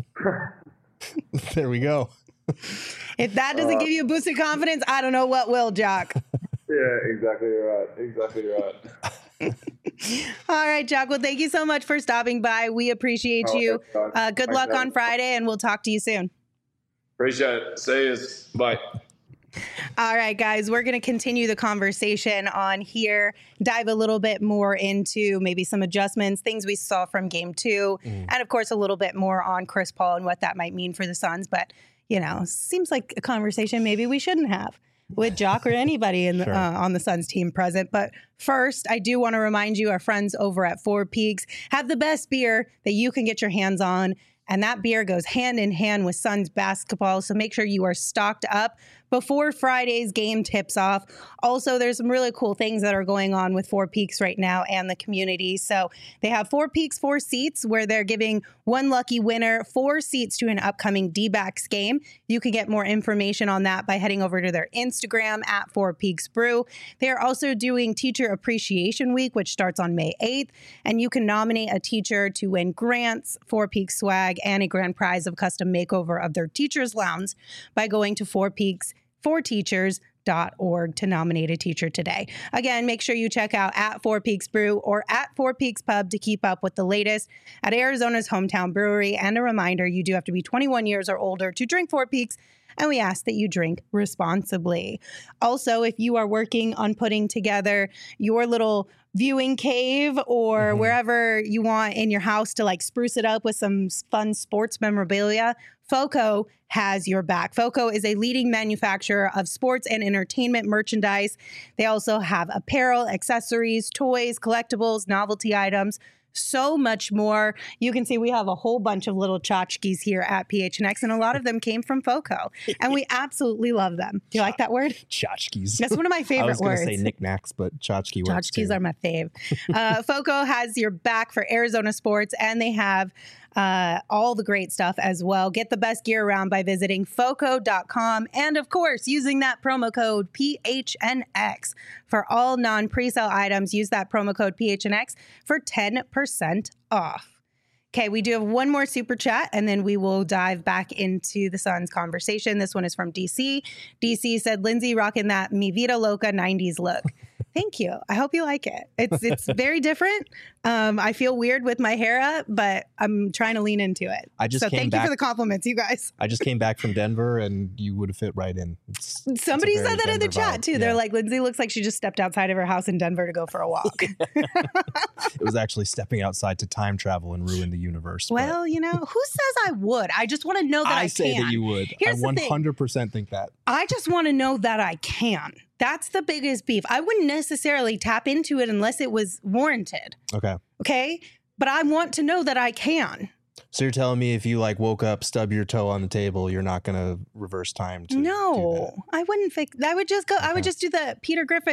There we go. If that doesn't give you a boost of confidence, I don't know what will, Jock. Yeah, exactly right. Exactly right. All right, Jock. Well, thank you so much for stopping by. We appreciate you. Good luck on Friday, and we'll talk to you soon. Appreciate it. See you. Bye. All right, guys, we're going to continue the conversation on here, dive a little bit more into maybe some adjustments, things we saw from game 2, and of course, a little bit more on Chris Paul and what that might mean for the Suns. But, seems like a conversation maybe we shouldn't have with Jock or anybody in Sure. on the Suns team present. But first, I do want to remind you, our friends over at Four Peaks have the best beer that you can get your hands on. And that beer goes hand in hand with Suns basketball. So make sure you are stocked up before Friday's game tips off. Also, there's some really cool things that are going on with Four Peaks right now and the community. So they have Four Peaks 4 seats where they're giving one lucky winner 4 seats to an upcoming D-backs game. You can get more information on that by heading over to their Instagram at Four Peaks Brew. They are also doing Teacher Appreciation Week, which starts on May 8th, and you can nominate a teacher to win grants, Four Peaks swag, and a grand prize of custom makeover of their teacher's lounge by going to fourpeaksforteachers.org to nominate a teacher today. Again, make sure you check out at Four Peaks Brew or at Four Peaks Pub to keep up with the latest at Arizona's hometown brewery. And a reminder, you do have to be 21 years or older to drink Four Peaks, and we ask that you drink responsibly. Also, if you are working on putting together your little viewing cave or wherever you want in your house to like spruce it up with some fun sports memorabilia, FOCO has your back. FOCO is a leading manufacturer of sports and entertainment merchandise. They also have apparel, accessories, toys, collectibles, novelty items, so much more. You can see we have a whole bunch of little tchotchkes here at PHNX, and a lot of them came from FOCO, and we absolutely love them. Do you like that word? Tchotchkes. That's one of my favorite words. I was going to say knickknacks, but tchotchke works too. Tchotchkes are my fave. FOCO has your back for Arizona sports, and they have all the great stuff as well. Get the best gear around by visiting foco.com and, of course, using that promo code PHNX for all non-presale items. Use that promo code PHNX for 10% off. Okay, we do have one more super chat, and then we will dive back into the Suns conversation. This one is from DC. DC said, Lindsay rocking that Mi Vida Loca 90s look. Thank you. I hope you like it. It's very different. I feel weird with my hair up, but I'm trying to lean into it. Thank you for the compliments, you guys. I just came back from Denver, and you would have fit right in. Somebody said that in the chat, too. Yeah. They're like, Lindsay looks like she just stepped outside of her house in Denver to go for a walk. It was actually stepping outside to time travel and ruin the universe. Well, you know, who says I would? I just want to know that I can. I say that you would. Here's I 100% think that. I just want to know that I can. That's the biggest beef. I wouldn't necessarily tap into it unless it was warranted. Okay. But I want to know that I can. So you're telling me if you like woke up, stub your toe on the table, you're not going to reverse time to do that? I wouldn't fix. I would just go. Okay. I would just do the Peter Griffin.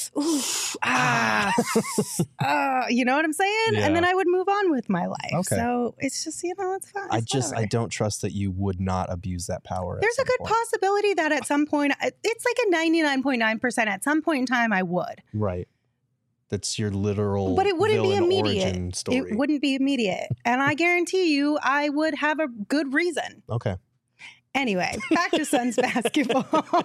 You know what I'm saying? Yeah. And then I would move on with my life. Okay. So it's just, you know, it's fine. I don't trust that you would not abuse that power. There's a good possibility that at some point, it's like a 99.9%. At some point in time, I would. Right. That's your literal. But it wouldn't be immediate. Story. It wouldn't be immediate. And I guarantee you, I would have a good reason. Okay. Anyway, back to Suns basketball.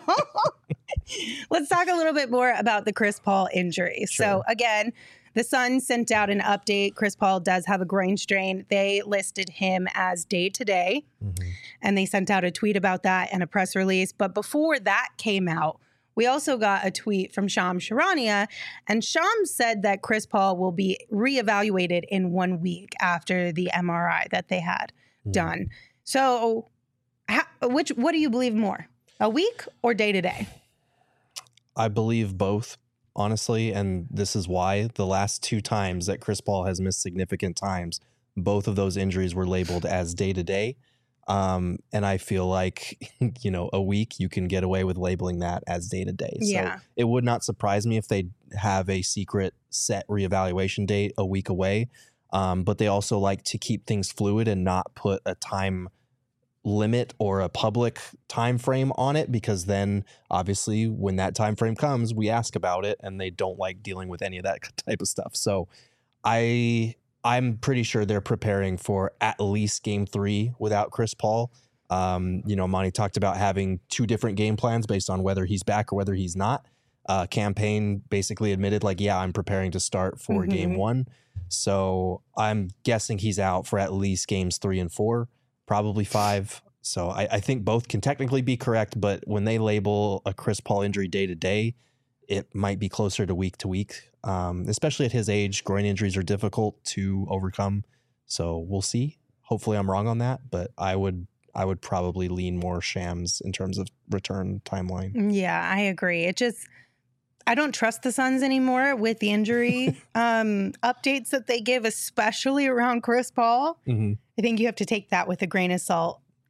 Let's talk a little bit more about the Chris Paul injury. Sure. So again, the Suns sent out an update. Chris Paul does have a groin strain. They listed him as day-to-day, and they sent out a tweet about that and a press release. But before that came out, we also got a tweet from Shams Charania, and Shams said that Chris Paul will be reevaluated in 1 week after the MRI that they had done. So what do you believe more, a week or day-to-day? I believe both, honestly, and this is why. The last 2 times that Chris Paul has missed significant times, both of those injuries were labeled as day-to-day. And I feel like, you know, a week you can get away with labeling that as day-to-day. Yeah. So it would not surprise me if they have a secret set reevaluation date a week away. But they also like to keep things fluid and not put a time limit or a public time frame on it, because then obviously when that time frame comes, we ask about it, and they don't like dealing with any of that type of stuff. So I'm pretty sure they're preparing for at least game 3 without Chris Paul. You know, Monty talked about having 2 different game plans based on whether he's back or whether he's not. Campaign basically admitted, like, yeah, I'm preparing to start for game 1. So I'm guessing he's out for at least games 3 and 4, probably 5. So I think both can technically be correct, but when they label a Chris Paul injury day to day, it might be closer to week, especially at his age. Groin injuries are difficult to overcome. So we'll see. Hopefully I'm wrong on that, but I would probably lean more Shams in terms of return timeline. Yeah, I agree. I don't trust the Suns anymore with the injury updates that they give, especially around Chris Paul. I think you have to take that with a grain of salt.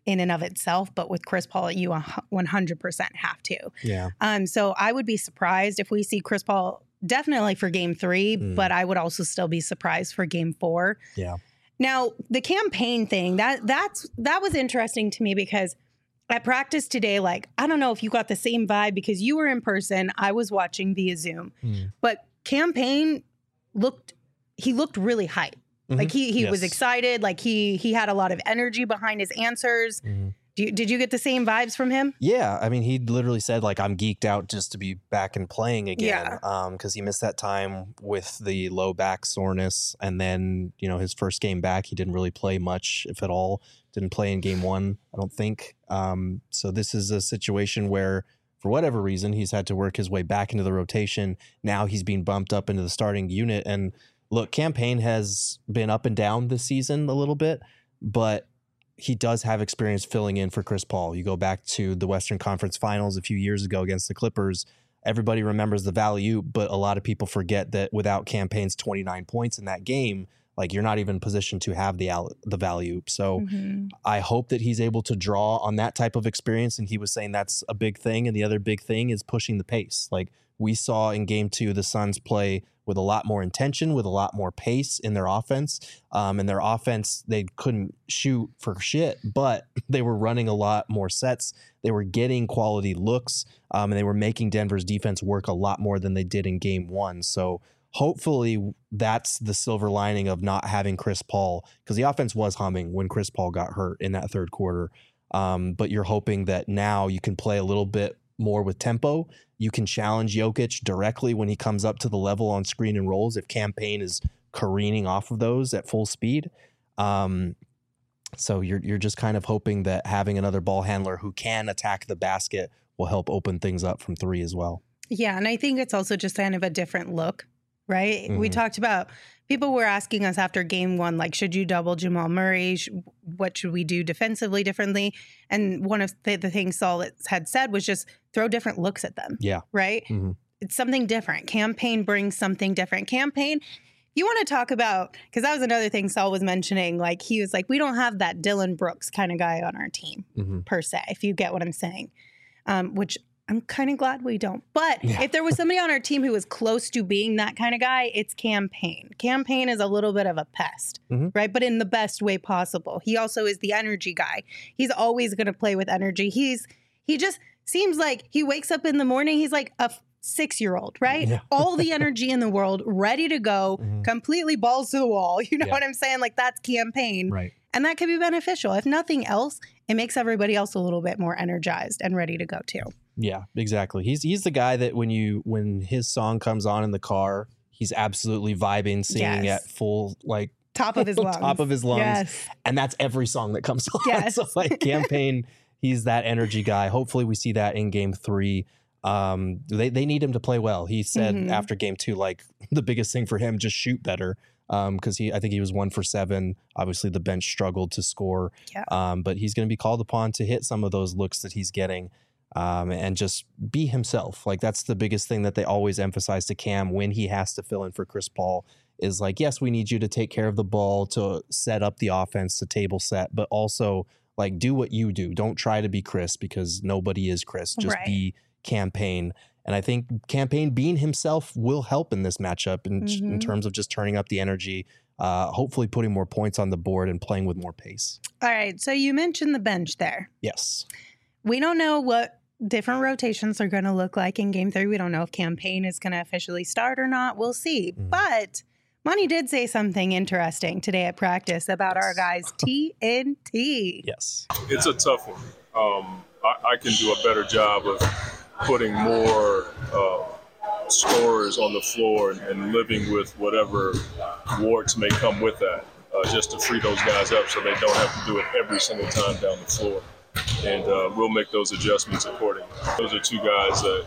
in and of itself, but with Chris Paul, you 100% have to. Yeah. So I would be surprised if we see Chris Paul definitely for game 3, but I would also still be surprised for game 4. Yeah. Now, the campaign thing, that was interesting to me because at practice today, like, I don't know if you got the same vibe because you were in person. I was watching via Zoom. But campaign looked really hyped. Like he was excited. Like he had a lot of energy behind his answers. Did you get the same vibes from him? Yeah. I mean, he literally said, like, I'm geeked out just to be back and playing again. Because he missed that time with the low back soreness. And then, you know, his first game back, he didn't really play much, if at all. Didn't play in game 1, I don't think. So this is a situation where, for whatever reason, he's had to work his way back into the rotation. Now he's being bumped up into the starting unit. And look, campaign has been up and down this season a little bit, but he does have experience filling in for Chris Paul. You go back to the Western Conference Finals a few years ago against the Clippers. Everybody remembers the value, but a lot of people forget that without campaign's 29 points in that game, like, you're not even positioned to have the value. So I hope that he's able to draw on that type of experience. And he was saying that's a big thing. And the other big thing is pushing the pace. Like we saw in game 2, the Suns play with a lot more intention, with a lot more pace in their offense. And their offense, they couldn't shoot for shit, but they were running a lot more sets. They were getting quality looks, and they were making Denver's defense work a lot more than they did in game 1. So hopefully that's the silver lining of not having Chris Paul, because the offense was humming when Chris Paul got hurt in that third quarter. But you're hoping that now you can play a little bit more with tempo. You can challenge Jokic directly when he comes up to the level on screen and rolls if campaign is careening off of those at full speed. So you're just kind of hoping that having another ball handler who can attack the basket will help open things up from 3 as well. Yeah, and I think it's also just kind of a different look, right? We talked about, people were asking us after game 1, like, should you double Jamal Murray? What should we do defensively differently? And one of the things Saul had said was just throw different looks at them. Yeah. Right? It's something different. Campaign brings something different. Campaign, you want to talk about, because that was another thing Saul was mentioning, like, he was like, we don't have that Dylan Brooks kind of guy on our team, per se, if you get what I'm saying, which I'm kind of glad we don't. But if there was somebody on our team who was close to being that kind of guy, it's Campaign. Campaign is a little bit of a pest, right? But in the best way possible. He also is the energy guy. He's always going to play with energy. He just seems like he wakes up in the morning, he's like a 6-year-old, right? Yeah. All the energy in the world, ready to go, completely balls to the wall. You know what I'm saying? Like, that's Campaign. Right. And that could be beneficial. If nothing else, it makes everybody else a little bit more energized and ready to go too. Yeah, exactly. He's the guy that when his song comes on in the car, he's absolutely vibing, singing at full, like, top of his lungs. Top of his lungs. Yes. And that's every song that comes on. Yes. So, like, Campaign, he's that energy guy. Hopefully we see that in game 3. They need him to play well. He said after game 2, like, the biggest thing for him, just shoot better. Because I think he was 1 for 7. Obviously, the bench struggled to score. Yeah. But he's going to be called upon to hit some of those looks that he's getting, and just be himself. Like, that's the biggest thing that they always emphasize to Cam when he has to fill in for Chris Paul is like, yes, we need you to take care of the ball, to set up the offense, to table set, but also, like, do what you do. Don't try to be Chris, because nobody is Chris. Just be Campaign. And I think Campaign being himself will help in this matchup in terms of just turning up the energy, hopefully putting more points on the board and playing with more pace. All right. So you mentioned the bench there. Yes. We don't know what different rotations are going to look like in game 3. We don't know if Campaign is going to officially start or not. We'll see. But Monty did say something interesting today at practice about our guys TNT. Yes. It's a tough one. I can do a better job of putting more scorers on the floor and living with whatever warts may come with that, just to free those guys up so they don't have to do it every single time down the floor. And we'll make those adjustments accordingly. Those are 2 guys that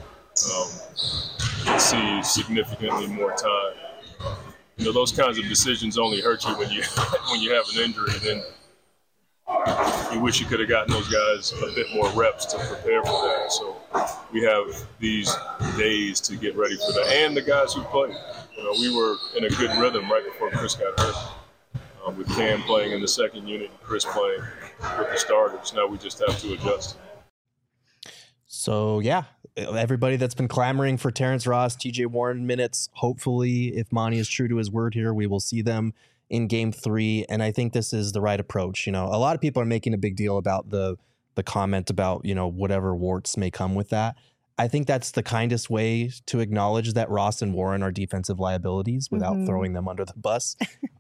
can see significantly more time. You know, those kinds of decisions only hurt you when you have an injury. Then you wish you could have gotten those guys a bit more reps to prepare for that. So we have these days to get ready for that. And the guys who played. You know, we were in a good rhythm right before Chris got hurt. with Cam playing in the second unit and Chris playing with the starters. Now we just have to adjust. So, yeah, everybody that's been clamoring for Terrence Ross, TJ Warren minutes, hopefully, if Monty is true to his word here, we will see them in game 3. And I think this is the right approach. You know, a lot of people are making a big deal about the comment about, you know, whatever warts may come with that. I think that's the kindest way to acknowledge that Ross and Warren are defensive liabilities without throwing them under the bus.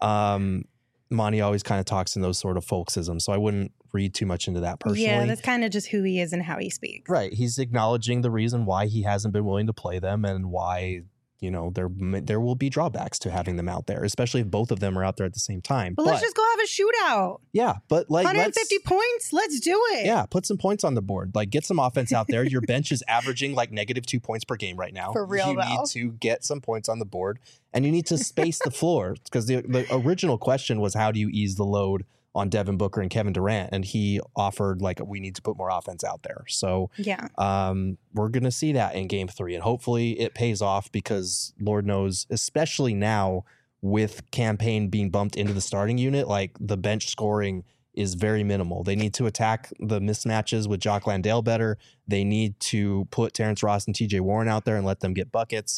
Monty always kind of talks in those sort of folksisms, so I wouldn't read too much into that personally. Yeah, that's kind of just who he is and how he speaks. Right. He's acknowledging the reason why he hasn't been willing to play them and why, you know, there will be drawbacks to having them out there, especially if both of them are out there at the same time. But let's just go have a shootout. Yeah, but like 150 points, let's do it. Yeah, put some points on the board. Like, get some offense out there. Your bench is averaging like -2 points per game right now. For real, you need to get some points on the board, and you need to space the floor, because the original question was, how do you ease the load on Devin Booker and Kevin Durant? And he offered, like, we need to put more offense out there. So yeah, we're going to see that in game 3, and hopefully it pays off, because Lord knows, especially now with Campaign being bumped into the starting unit, like, the bench scoring is very minimal. They need to attack the mismatches with Jock Landale better. They need to put Terrence Ross and TJ Warren out there and let them get buckets.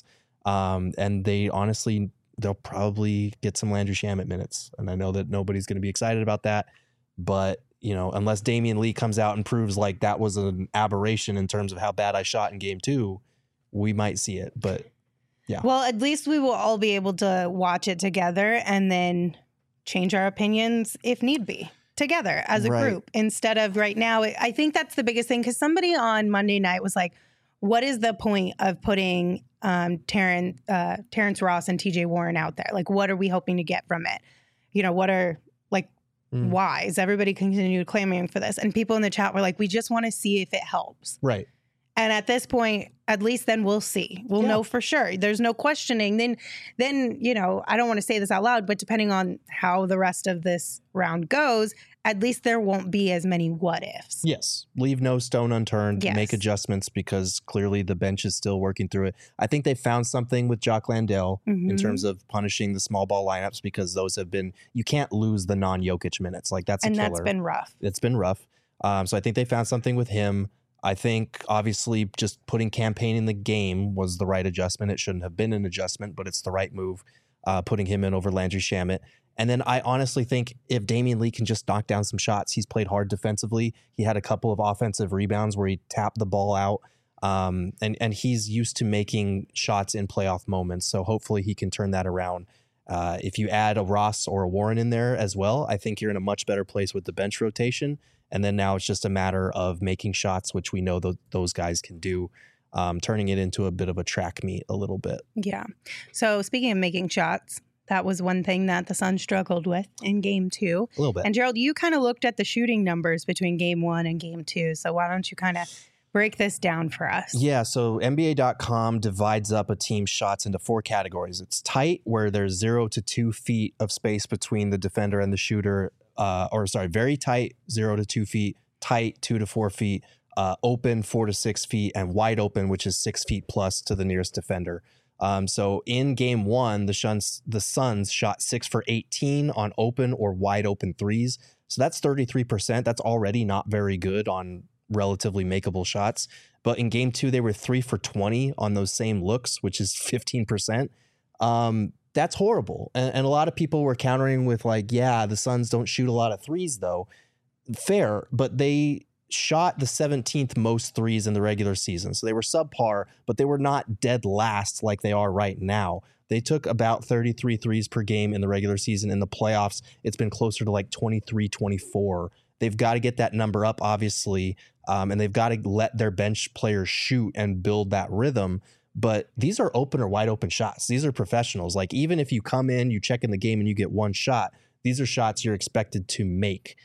And they'll probably get some Landry Shamet minutes. And I know that nobody's going to be excited about that, but, you know, unless Damian Lee comes out and proves like that was an aberration in terms of how bad I shot in game 2, we might see it. But yeah. Well, at least we will all be able to watch it together and then change our opinions if need be together as a group, instead of right now. I think that's the biggest thing, because somebody on Monday night was like, what is the point of putting Terrence Ross and TJ Warren out there? Like, what are we hoping to get from it? You know, what are, like, why is everybody continue clamoring for this? And people in the chat were like, we just want to see if it helps. Right. And at this point, at least then we'll see. We'll know for sure. There's no questioning. Then, you know, I don't want to say this out loud, but depending on how the rest of this round goes, at least there won't be as many what ifs. Yes. Leave no stone unturned. Yes. Make adjustments, because clearly the bench is still working through it. I think they found something with Jock Landale in terms of punishing the small ball lineups, because those have been, you can't lose the non-Jokic minutes. Like, that's a killer. And that's been rough. It's been rough. So I think they found something with him. I think obviously just putting Campaign in the game was the right adjustment. It shouldn't have been an adjustment, but it's the right move, putting him in over Landry Shamet. And then I honestly think if Damian Lee can just knock down some shots, he's played hard defensively. He had a couple of offensive rebounds where he tapped the ball out, and he's used to making shots in playoff moments. So hopefully he can turn that around. If you add a Ross or a Warren in there as well, I think you're in a much better place with the bench rotation. And then now it's just a matter of making shots, which we know those guys can do, turning it into a bit of a track meet a little bit. Yeah. So speaking of making shots, that was one thing that the Suns struggled with in game 2. A little bit. And Gerald, you kind of looked at the shooting numbers between game 1 and game 2. So why don't you kind of break this down for us? Yeah, so NBA.com divides up a team's shots into 4 categories. It's tight, where there's 0 to 2 feet of space between the defender and the shooter. Very tight, 0 to 2 feet, tight, 2 to 4 feet, open, 4 to 6 feet, and wide open, which is 6 feet plus to the nearest defender. So in game 1, the Suns shot 6 for 18 on open or wide open threes. So that's 33%. That's already not very good on relatively makeable shots. But in game 2, they were 3 for 20 on those same looks, which is 15%. That's horrible. And a lot of people were countering with like, yeah, the Suns don't shoot a lot of threes though. Fair, but they shot the 17th most threes in the regular season. So they were subpar, but they were not dead last like they are right now. They took about 33 threes per game in the regular season. In the playoffs, it's been closer to like 23, 24. They've got to get that number up, obviously, and they've got to let their bench players shoot and build that rhythm. But these are open or wide open shots. These are professionals. Like, even if you come in, you check in the game and you get one shot, these are shots you're expected to make.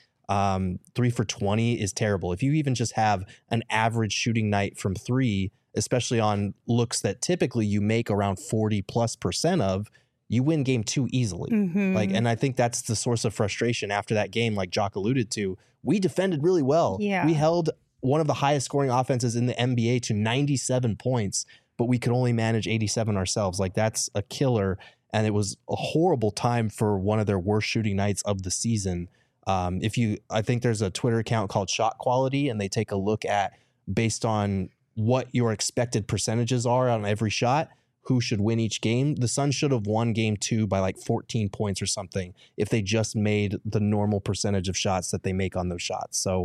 3 for 20 is terrible. If you even just have an average shooting night from 3, especially on looks that typically you make around 40+% of, you win game 2 easily. And I think that's the source of frustration after that game. Like Jock alluded to, we defended really well. Yeah. We held one of the highest scoring offenses in the NBA to 97 points, but we could only manage 87 ourselves. Like, that's a killer. and it was a horrible time for one of their worst shooting nights of the season. I think there's a Twitter account called Shot Quality, and they take a look at, based on what your expected percentages are on every shot, who should win each game. The Suns should have won game 2 by like 14 points or something if they just made the normal percentage of shots that they make on those shots. So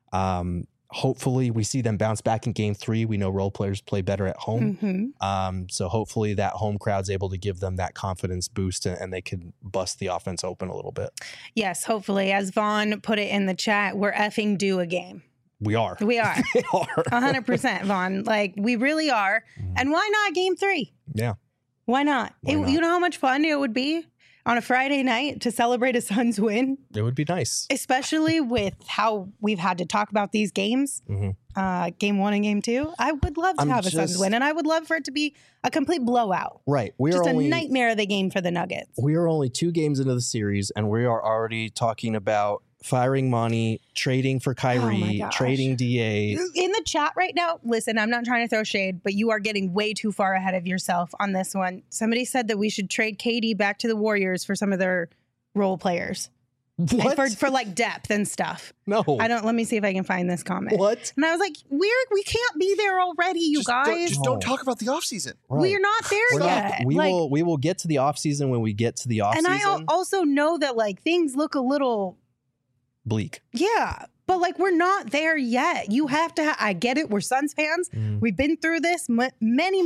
hopefully we see them bounce back in game 3. We know role players play better at home. So hopefully that home crowd's able to give them that confidence boost and they can bust the offense open a little bit. Yes, hopefully. As Vaughn put it in the chat, we're effing due a game. We are. We are. They are. 100%, Vaughn. Like, we really are. And why not game 3? Yeah. Why not? Why not? You know how much fun it would be on a Friday night to celebrate a Suns win? It would be nice. Especially with how we've had to talk about these games, game 1 and game 2. I would love to have a Suns win, and I would love for it to be a complete blowout. Right. Just a nightmare of the game for the Nuggets. We are only 2 games into the series, and we are already talking about firing Monty, trading for Kyrie, trading DA. In the chat right now, listen, I'm not trying to throw shade, but you are getting way too far ahead of yourself on this one. Somebody said that we should trade KD back to the Warriors for some of their role players. What? For like depth and stuff. No. Let me see if I can find this comment. What? And I was like, we can't be there already, you guys. Don't talk about the offseason. Right. We're not there yet. We will get to the offseason when we get to the offseason. And I also know that like things look a little bleak. Yeah. But like, we're not there yet. You have to, I get it. We're Suns fans. We've been through this many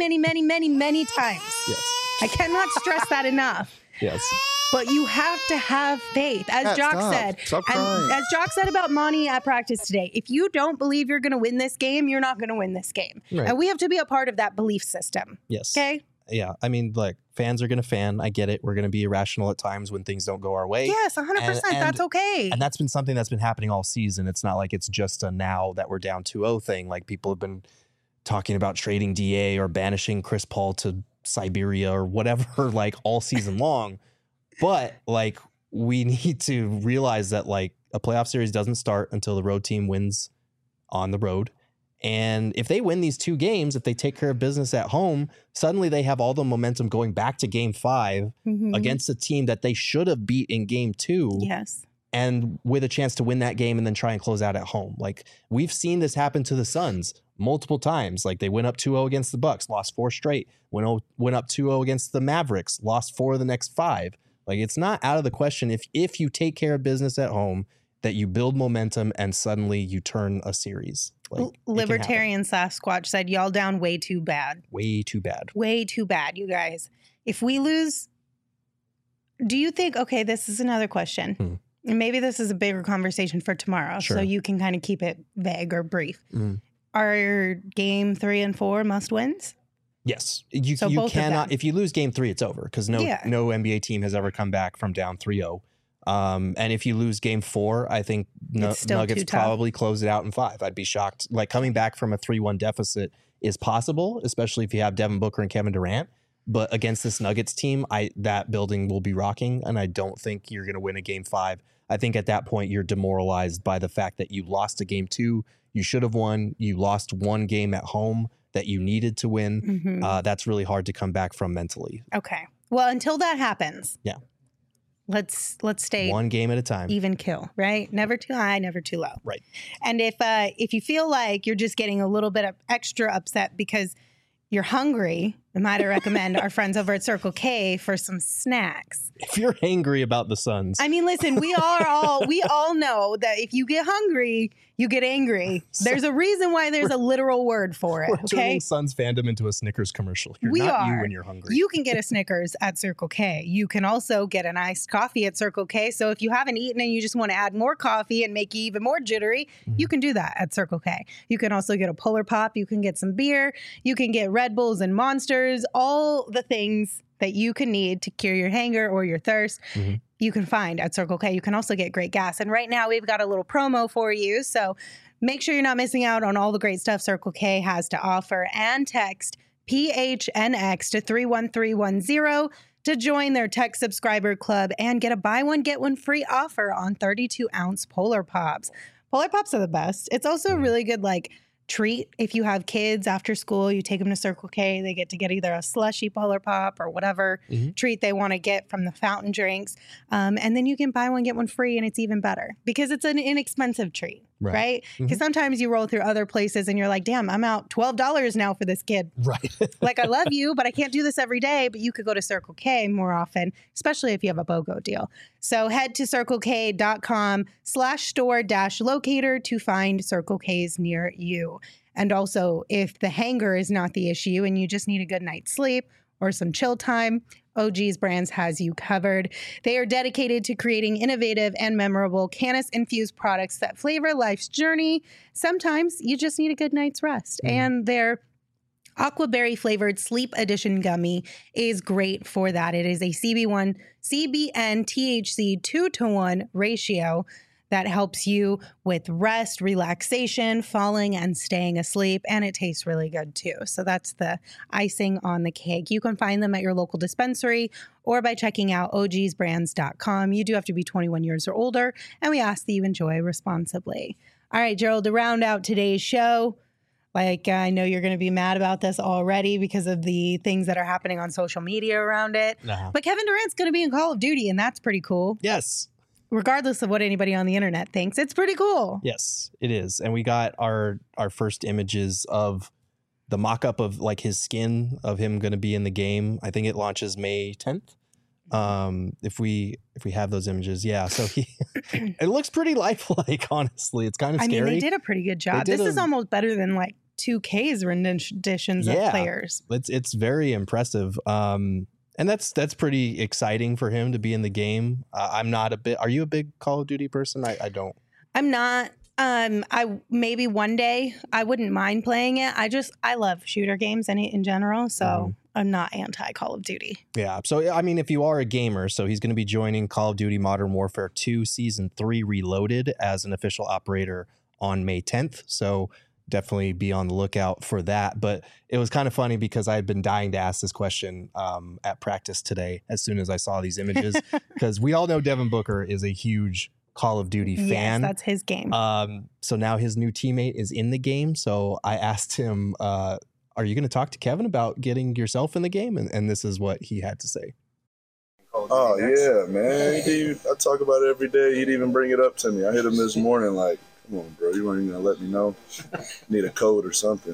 times. Yes. I cannot stress that enough. Yes. But you have to have faith. As Jock said, and as Jock said about Monty at practice today, if you don't believe you're going to win this game, you're not going to win this game. Right. And we have to be a part of that belief system. Yes. Okay? Yeah. I mean, like, fans are going to fan. I get it. We're going to be irrational at times when things don't go our way. Yes, 100%. That's okay. And that's been something that's been happening all season. It's not like it's just a now that we're down 2-0 thing. Like, people have been talking about trading DA or banishing Chris Paul to Siberia or whatever, like, all season long. But like, we need to realize that like a playoff series doesn't start until the road team wins on the road. And if they win these 2 games, if they take care of business at home, suddenly they have all the momentum going back to game 5 against a team that they should have beat in game 2. Yes. And with a chance to win that game and then try and close out at home. Like, we've seen this happen to the Suns multiple times. Like, they went up 2-0 against the Bucks, lost 4 straight. Went up 2-0 against the Mavericks, lost 4 of the next 5. Like, it's not out of the question if you take care of business at home that you build momentum and suddenly you turn a series. Like, Libertarian Sasquatch said, y'all down way too bad. Way too bad. Way too bad, you guys. If we lose, do you think, okay, this is another question. And maybe this is a bigger conversation for tomorrow. Sure. So you can kind of keep it vague or brief. Are game 3 and 4 must wins? Yes. You cannot, if you lose game 3, it's over because no NBA team has ever come back from down 3-0. And if you lose game 4, I think Nuggets probably close it out in 5. I'd be shocked. Like, coming back from a 3-1 deficit is possible, especially if you have Devin Booker and Kevin Durant. But against this Nuggets team, that building will be rocking, and I don't think you're going to win a game 5. I think at that point you're demoralized by the fact that you lost a game 2. You should have won. You lost 1 game at home that you needed to win. That's really hard to come back from mentally. Okay. Well, until that happens. Yeah. Let's stay 1 game at a time. Even kill, right? Never too high, never too low. Right. And if you feel like you're just getting a little bit of extra upset because you're hungry, I might recommend our friends over at Circle K for some snacks. If you're angry about the Suns. I mean, listen, we all know that if you get hungry, you get angry. There's a reason why there's a literal word for it. We're okay? turning Suns fandom into a Snickers commercial. You when you're hungry. You can get a Snickers at Circle K. You can also get an iced coffee at Circle K. So if you haven't eaten and you just want to add more coffee and make you even more jittery, you can do that at Circle K. You can also get a Polar Pop. You can get some beer. You can get Red Bulls and Monsters. All the things that you can need to cure your hunger or your thirst, you can find at Circle K. You can also get great gas. And right now we've got a little promo for you. So make sure you're not missing out on all the great stuff Circle K has to offer, and text PHNX to 31310 to join their tech subscriber club and get a buy one, get one free offer on 32-ounce Polar Pops. Polar Pops are the best. It's also a really good, like, treat. If you have kids after school, you take them to Circle K, they get to get either a slushy Polar Pop or whatever treat they want to get from the fountain drinks. And then you can buy one, get one free, and it's even better because it's an inexpensive treat, right? Because sometimes you roll through other places and you're like, damn, I'm out $12 now for this kid. Right. Like, I love you, but I can't do this every day. But you could go to Circle K more often, especially if you have a BOGO deal. So head to circlek.com/store-locator to find Circle K's near you. And also, if the hanger is not the issue and you just need a good night's sleep or some chill time, OG's Brands has you covered. They are dedicated to creating innovative and memorable cannabis-infused products that flavor life's journey. Sometimes you just need a good night's rest. And their Aquaberry flavored Sleep Edition gummy is great for that. It is a CBN THC 2-to-1 ratio that helps you with rest, relaxation, falling, and staying asleep. And it tastes really good too. So that's the icing on the cake. You can find them at your local dispensary or by checking out ogsbrands.com. You do have to be 21 years or older, and we ask that you enjoy responsibly. All right, Gerald, to round out today's show, like, I know you're going to be mad about this already because of the things that are happening on social media around it. But Kevin Durant's going to be in Call of Duty, and that's pretty cool. Yes. Regardless of what anybody on the internet thinks, it's pretty cool. Yes, it is. And we got our first images of the mock-up of like his skin of him going to be in the game. I think it launches May 10th. If we have those images. Yeah. So it looks pretty lifelike, honestly. It's kind of scary. I mean, they did a pretty good job. This is almost better than like 2K's renditions of players. It's very impressive. And that's pretty exciting for him to be in the game. I'm not are you a big Call of Duty person? I don't. I'm not. I maybe one day I wouldn't mind playing it. I love shooter games in general. So I'm not anti Call of Duty. Yeah. So, I mean, if you are a gamer, so he's going to be joining Call of Duty Modern Warfare 2 Season 3 Reloaded as an official operator on May 10th. So definitely be on the lookout for that. But it was kind of funny because I had been dying to ask this question at practice today as soon as I saw these images, because we all know Devin Booker is a huge Call of Duty fan. Yes, that's his game. So now his new teammate is in the game. So I asked him, are you going to talk to Kevin about getting yourself in the game? And this is what he had to say. Oh, yeah, man. I talk about it every day. He'd even bring it up to me. I hit him this morning like, come on, bro. You weren't even going to let me know. Need a code or something.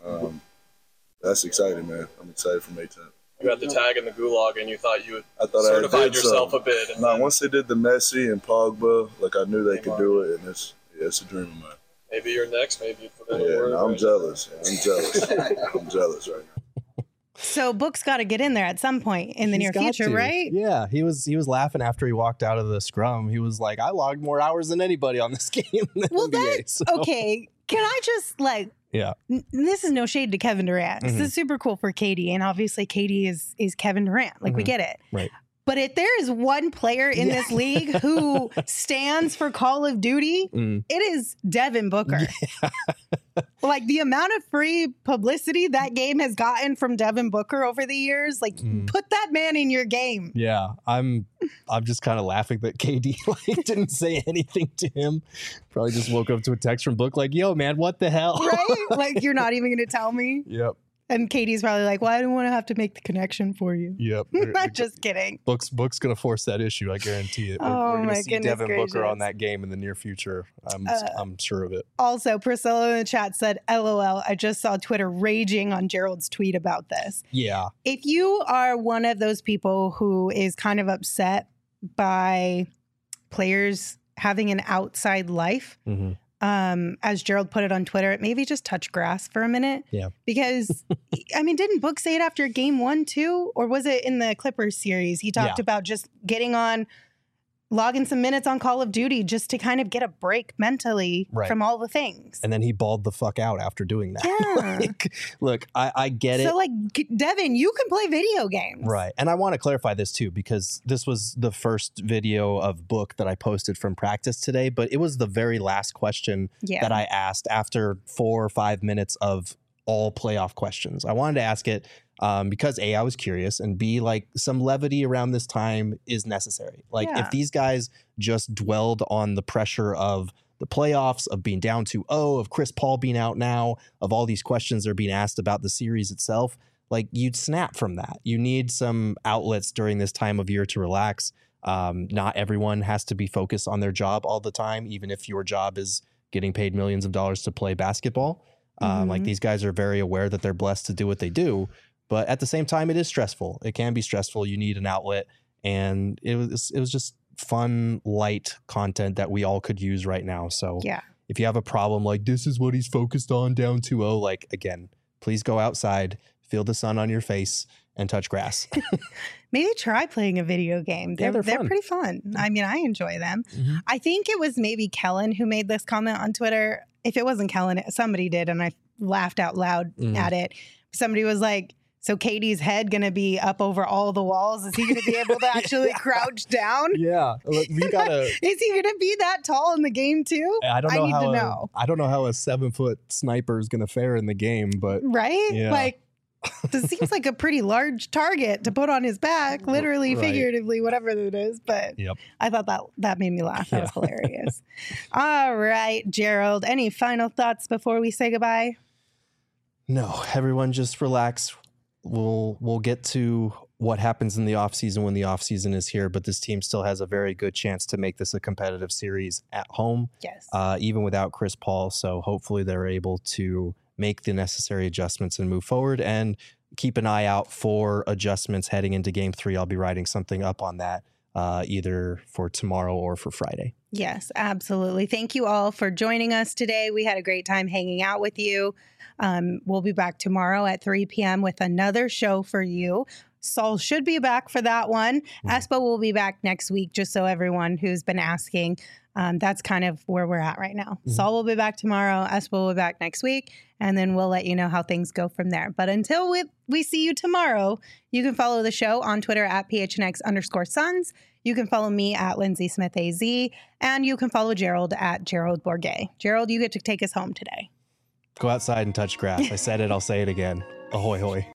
That's exciting, man. I'm excited for May 10th. You had the tag in the gulag and you thought you had certified yourself a bit. No, once they did the Messi and Pogba, like I knew they could do it, and it's a dream of mine. Maybe you're next. Maybe you put in Yeah, a word. no, I'm jealous. I'm jealous right now. So Book's got to get in there at some point in the near future, right? Yeah, he was laughing after he walked out of the scrum. He was like, I logged more hours than anybody on this game. Well, okay. Can I just this is no shade to Kevin Durant. This is super cool for KD, and obviously KD is Kevin Durant. Like, we get it. Right. But if there is one player in this league who stands for Call of Duty, it is Devin Booker. Yeah. Like, the amount of free publicity that game has gotten from Devin Booker over the years, like, put that man in your game. Yeah, I'm just kind of laughing that KD didn't say anything to him. Probably just woke up to a text from Book like, yo, man, what the hell? Right? Like, you're not even going to tell me? Yep. And Katie's probably like, well, I don't want to have to make the connection for you. Yep. I'm just kidding. Book's going to force that issue. I guarantee it. Oh, we're going to see Devin gracious. Booker on that game in the near future. I'm sure of it. Also, Priscilla in the chat said, LOL, I just saw Twitter raging on Gerald's tweet about this. Yeah. If you are one of those people who is kind of upset by players having an outside life, as Gerald put it on Twitter, maybe just touch grass for a minute. Yeah. Because, I mean, didn't Book say it after game 1 too? Or was it in the Clippers series? He talked about just logging some minutes on Call of Duty just to kind of get a break mentally from all the things. And then he bawled the fuck out after doing that. Yeah. Look, I get it. So, like, Devin, you can play video games. Right. And I want to clarify this too, because this was the first video of Book that I posted from practice today, but it was the very last question that I asked after 4 or 5 minutes of all playoff questions. I wanted to ask it because A, I was curious, and B, like, some levity around this time is necessary. Like, if these guys just dwelled on the pressure of the playoffs, of being down 2-0, of Chris Paul being out now, of all these questions that are being asked about the series itself, like you'd snap from that. You need some outlets during this time of year to relax. Not everyone has to be focused on their job all the time, even if your job is getting paid millions of dollars to play basketball. Like these guys are very aware that they're blessed to do what they do. But at the same time, it is stressful. It can be stressful. You need an outlet. And it was just fun, light content that we all could use right now. So if you have a problem like this is what he's focused on down 2-0, like again, please go outside, feel the sun on your face, and touch grass. Maybe try playing a video game. They're pretty fun. I mean, I enjoy them. I think it was maybe Kellen who made this comment on Twitter. If it wasn't Kellen, somebody did, and I laughed out loud at it. Somebody was like, so Katie's head going to be up over all the walls? Is he going to be able to actually crouch down? Yeah. We gotta. Is he going to be that tall in the game too? I need to know. I don't know how a 7-foot sniper is going to fare in the game, but. Right? Yeah. Like, this seems like a pretty large target to put on his back, literally, figuratively, whatever it is. But I thought that made me laugh. That was hilarious. All right, Gerald, any final thoughts before we say goodbye? No, everyone just relax. We'll get to what happens in the offseason when the offseason is here, but this team still has a very good chance to make this a competitive series at home. Yes. Even without Chris Paul. So hopefully they're able to make the necessary adjustments and move forward, and keep an eye out for adjustments heading into Game 3. I'll be writing something up on that either for tomorrow or for Friday. Yes, absolutely. Thank you all for joining us today. We had a great time hanging out with you. We'll be back tomorrow at 3 p.m. with another show for you. Saul should be back for that one. Espo will be back next week, just so everyone who's been asking. That's kind of where we're at right now. Saul will be back tomorrow. Espo will be back next week. And then we'll let you know how things go from there. But until we see you tomorrow, you can follow the show on Twitter at PHNX_Suns. You can follow me at Lindsay Smith AZ. And you can follow Gerald at Gerald Bourget. Gerald, you get to take us home today. Go outside and touch grass. I said it. I'll say it again. Ahoy, hoy.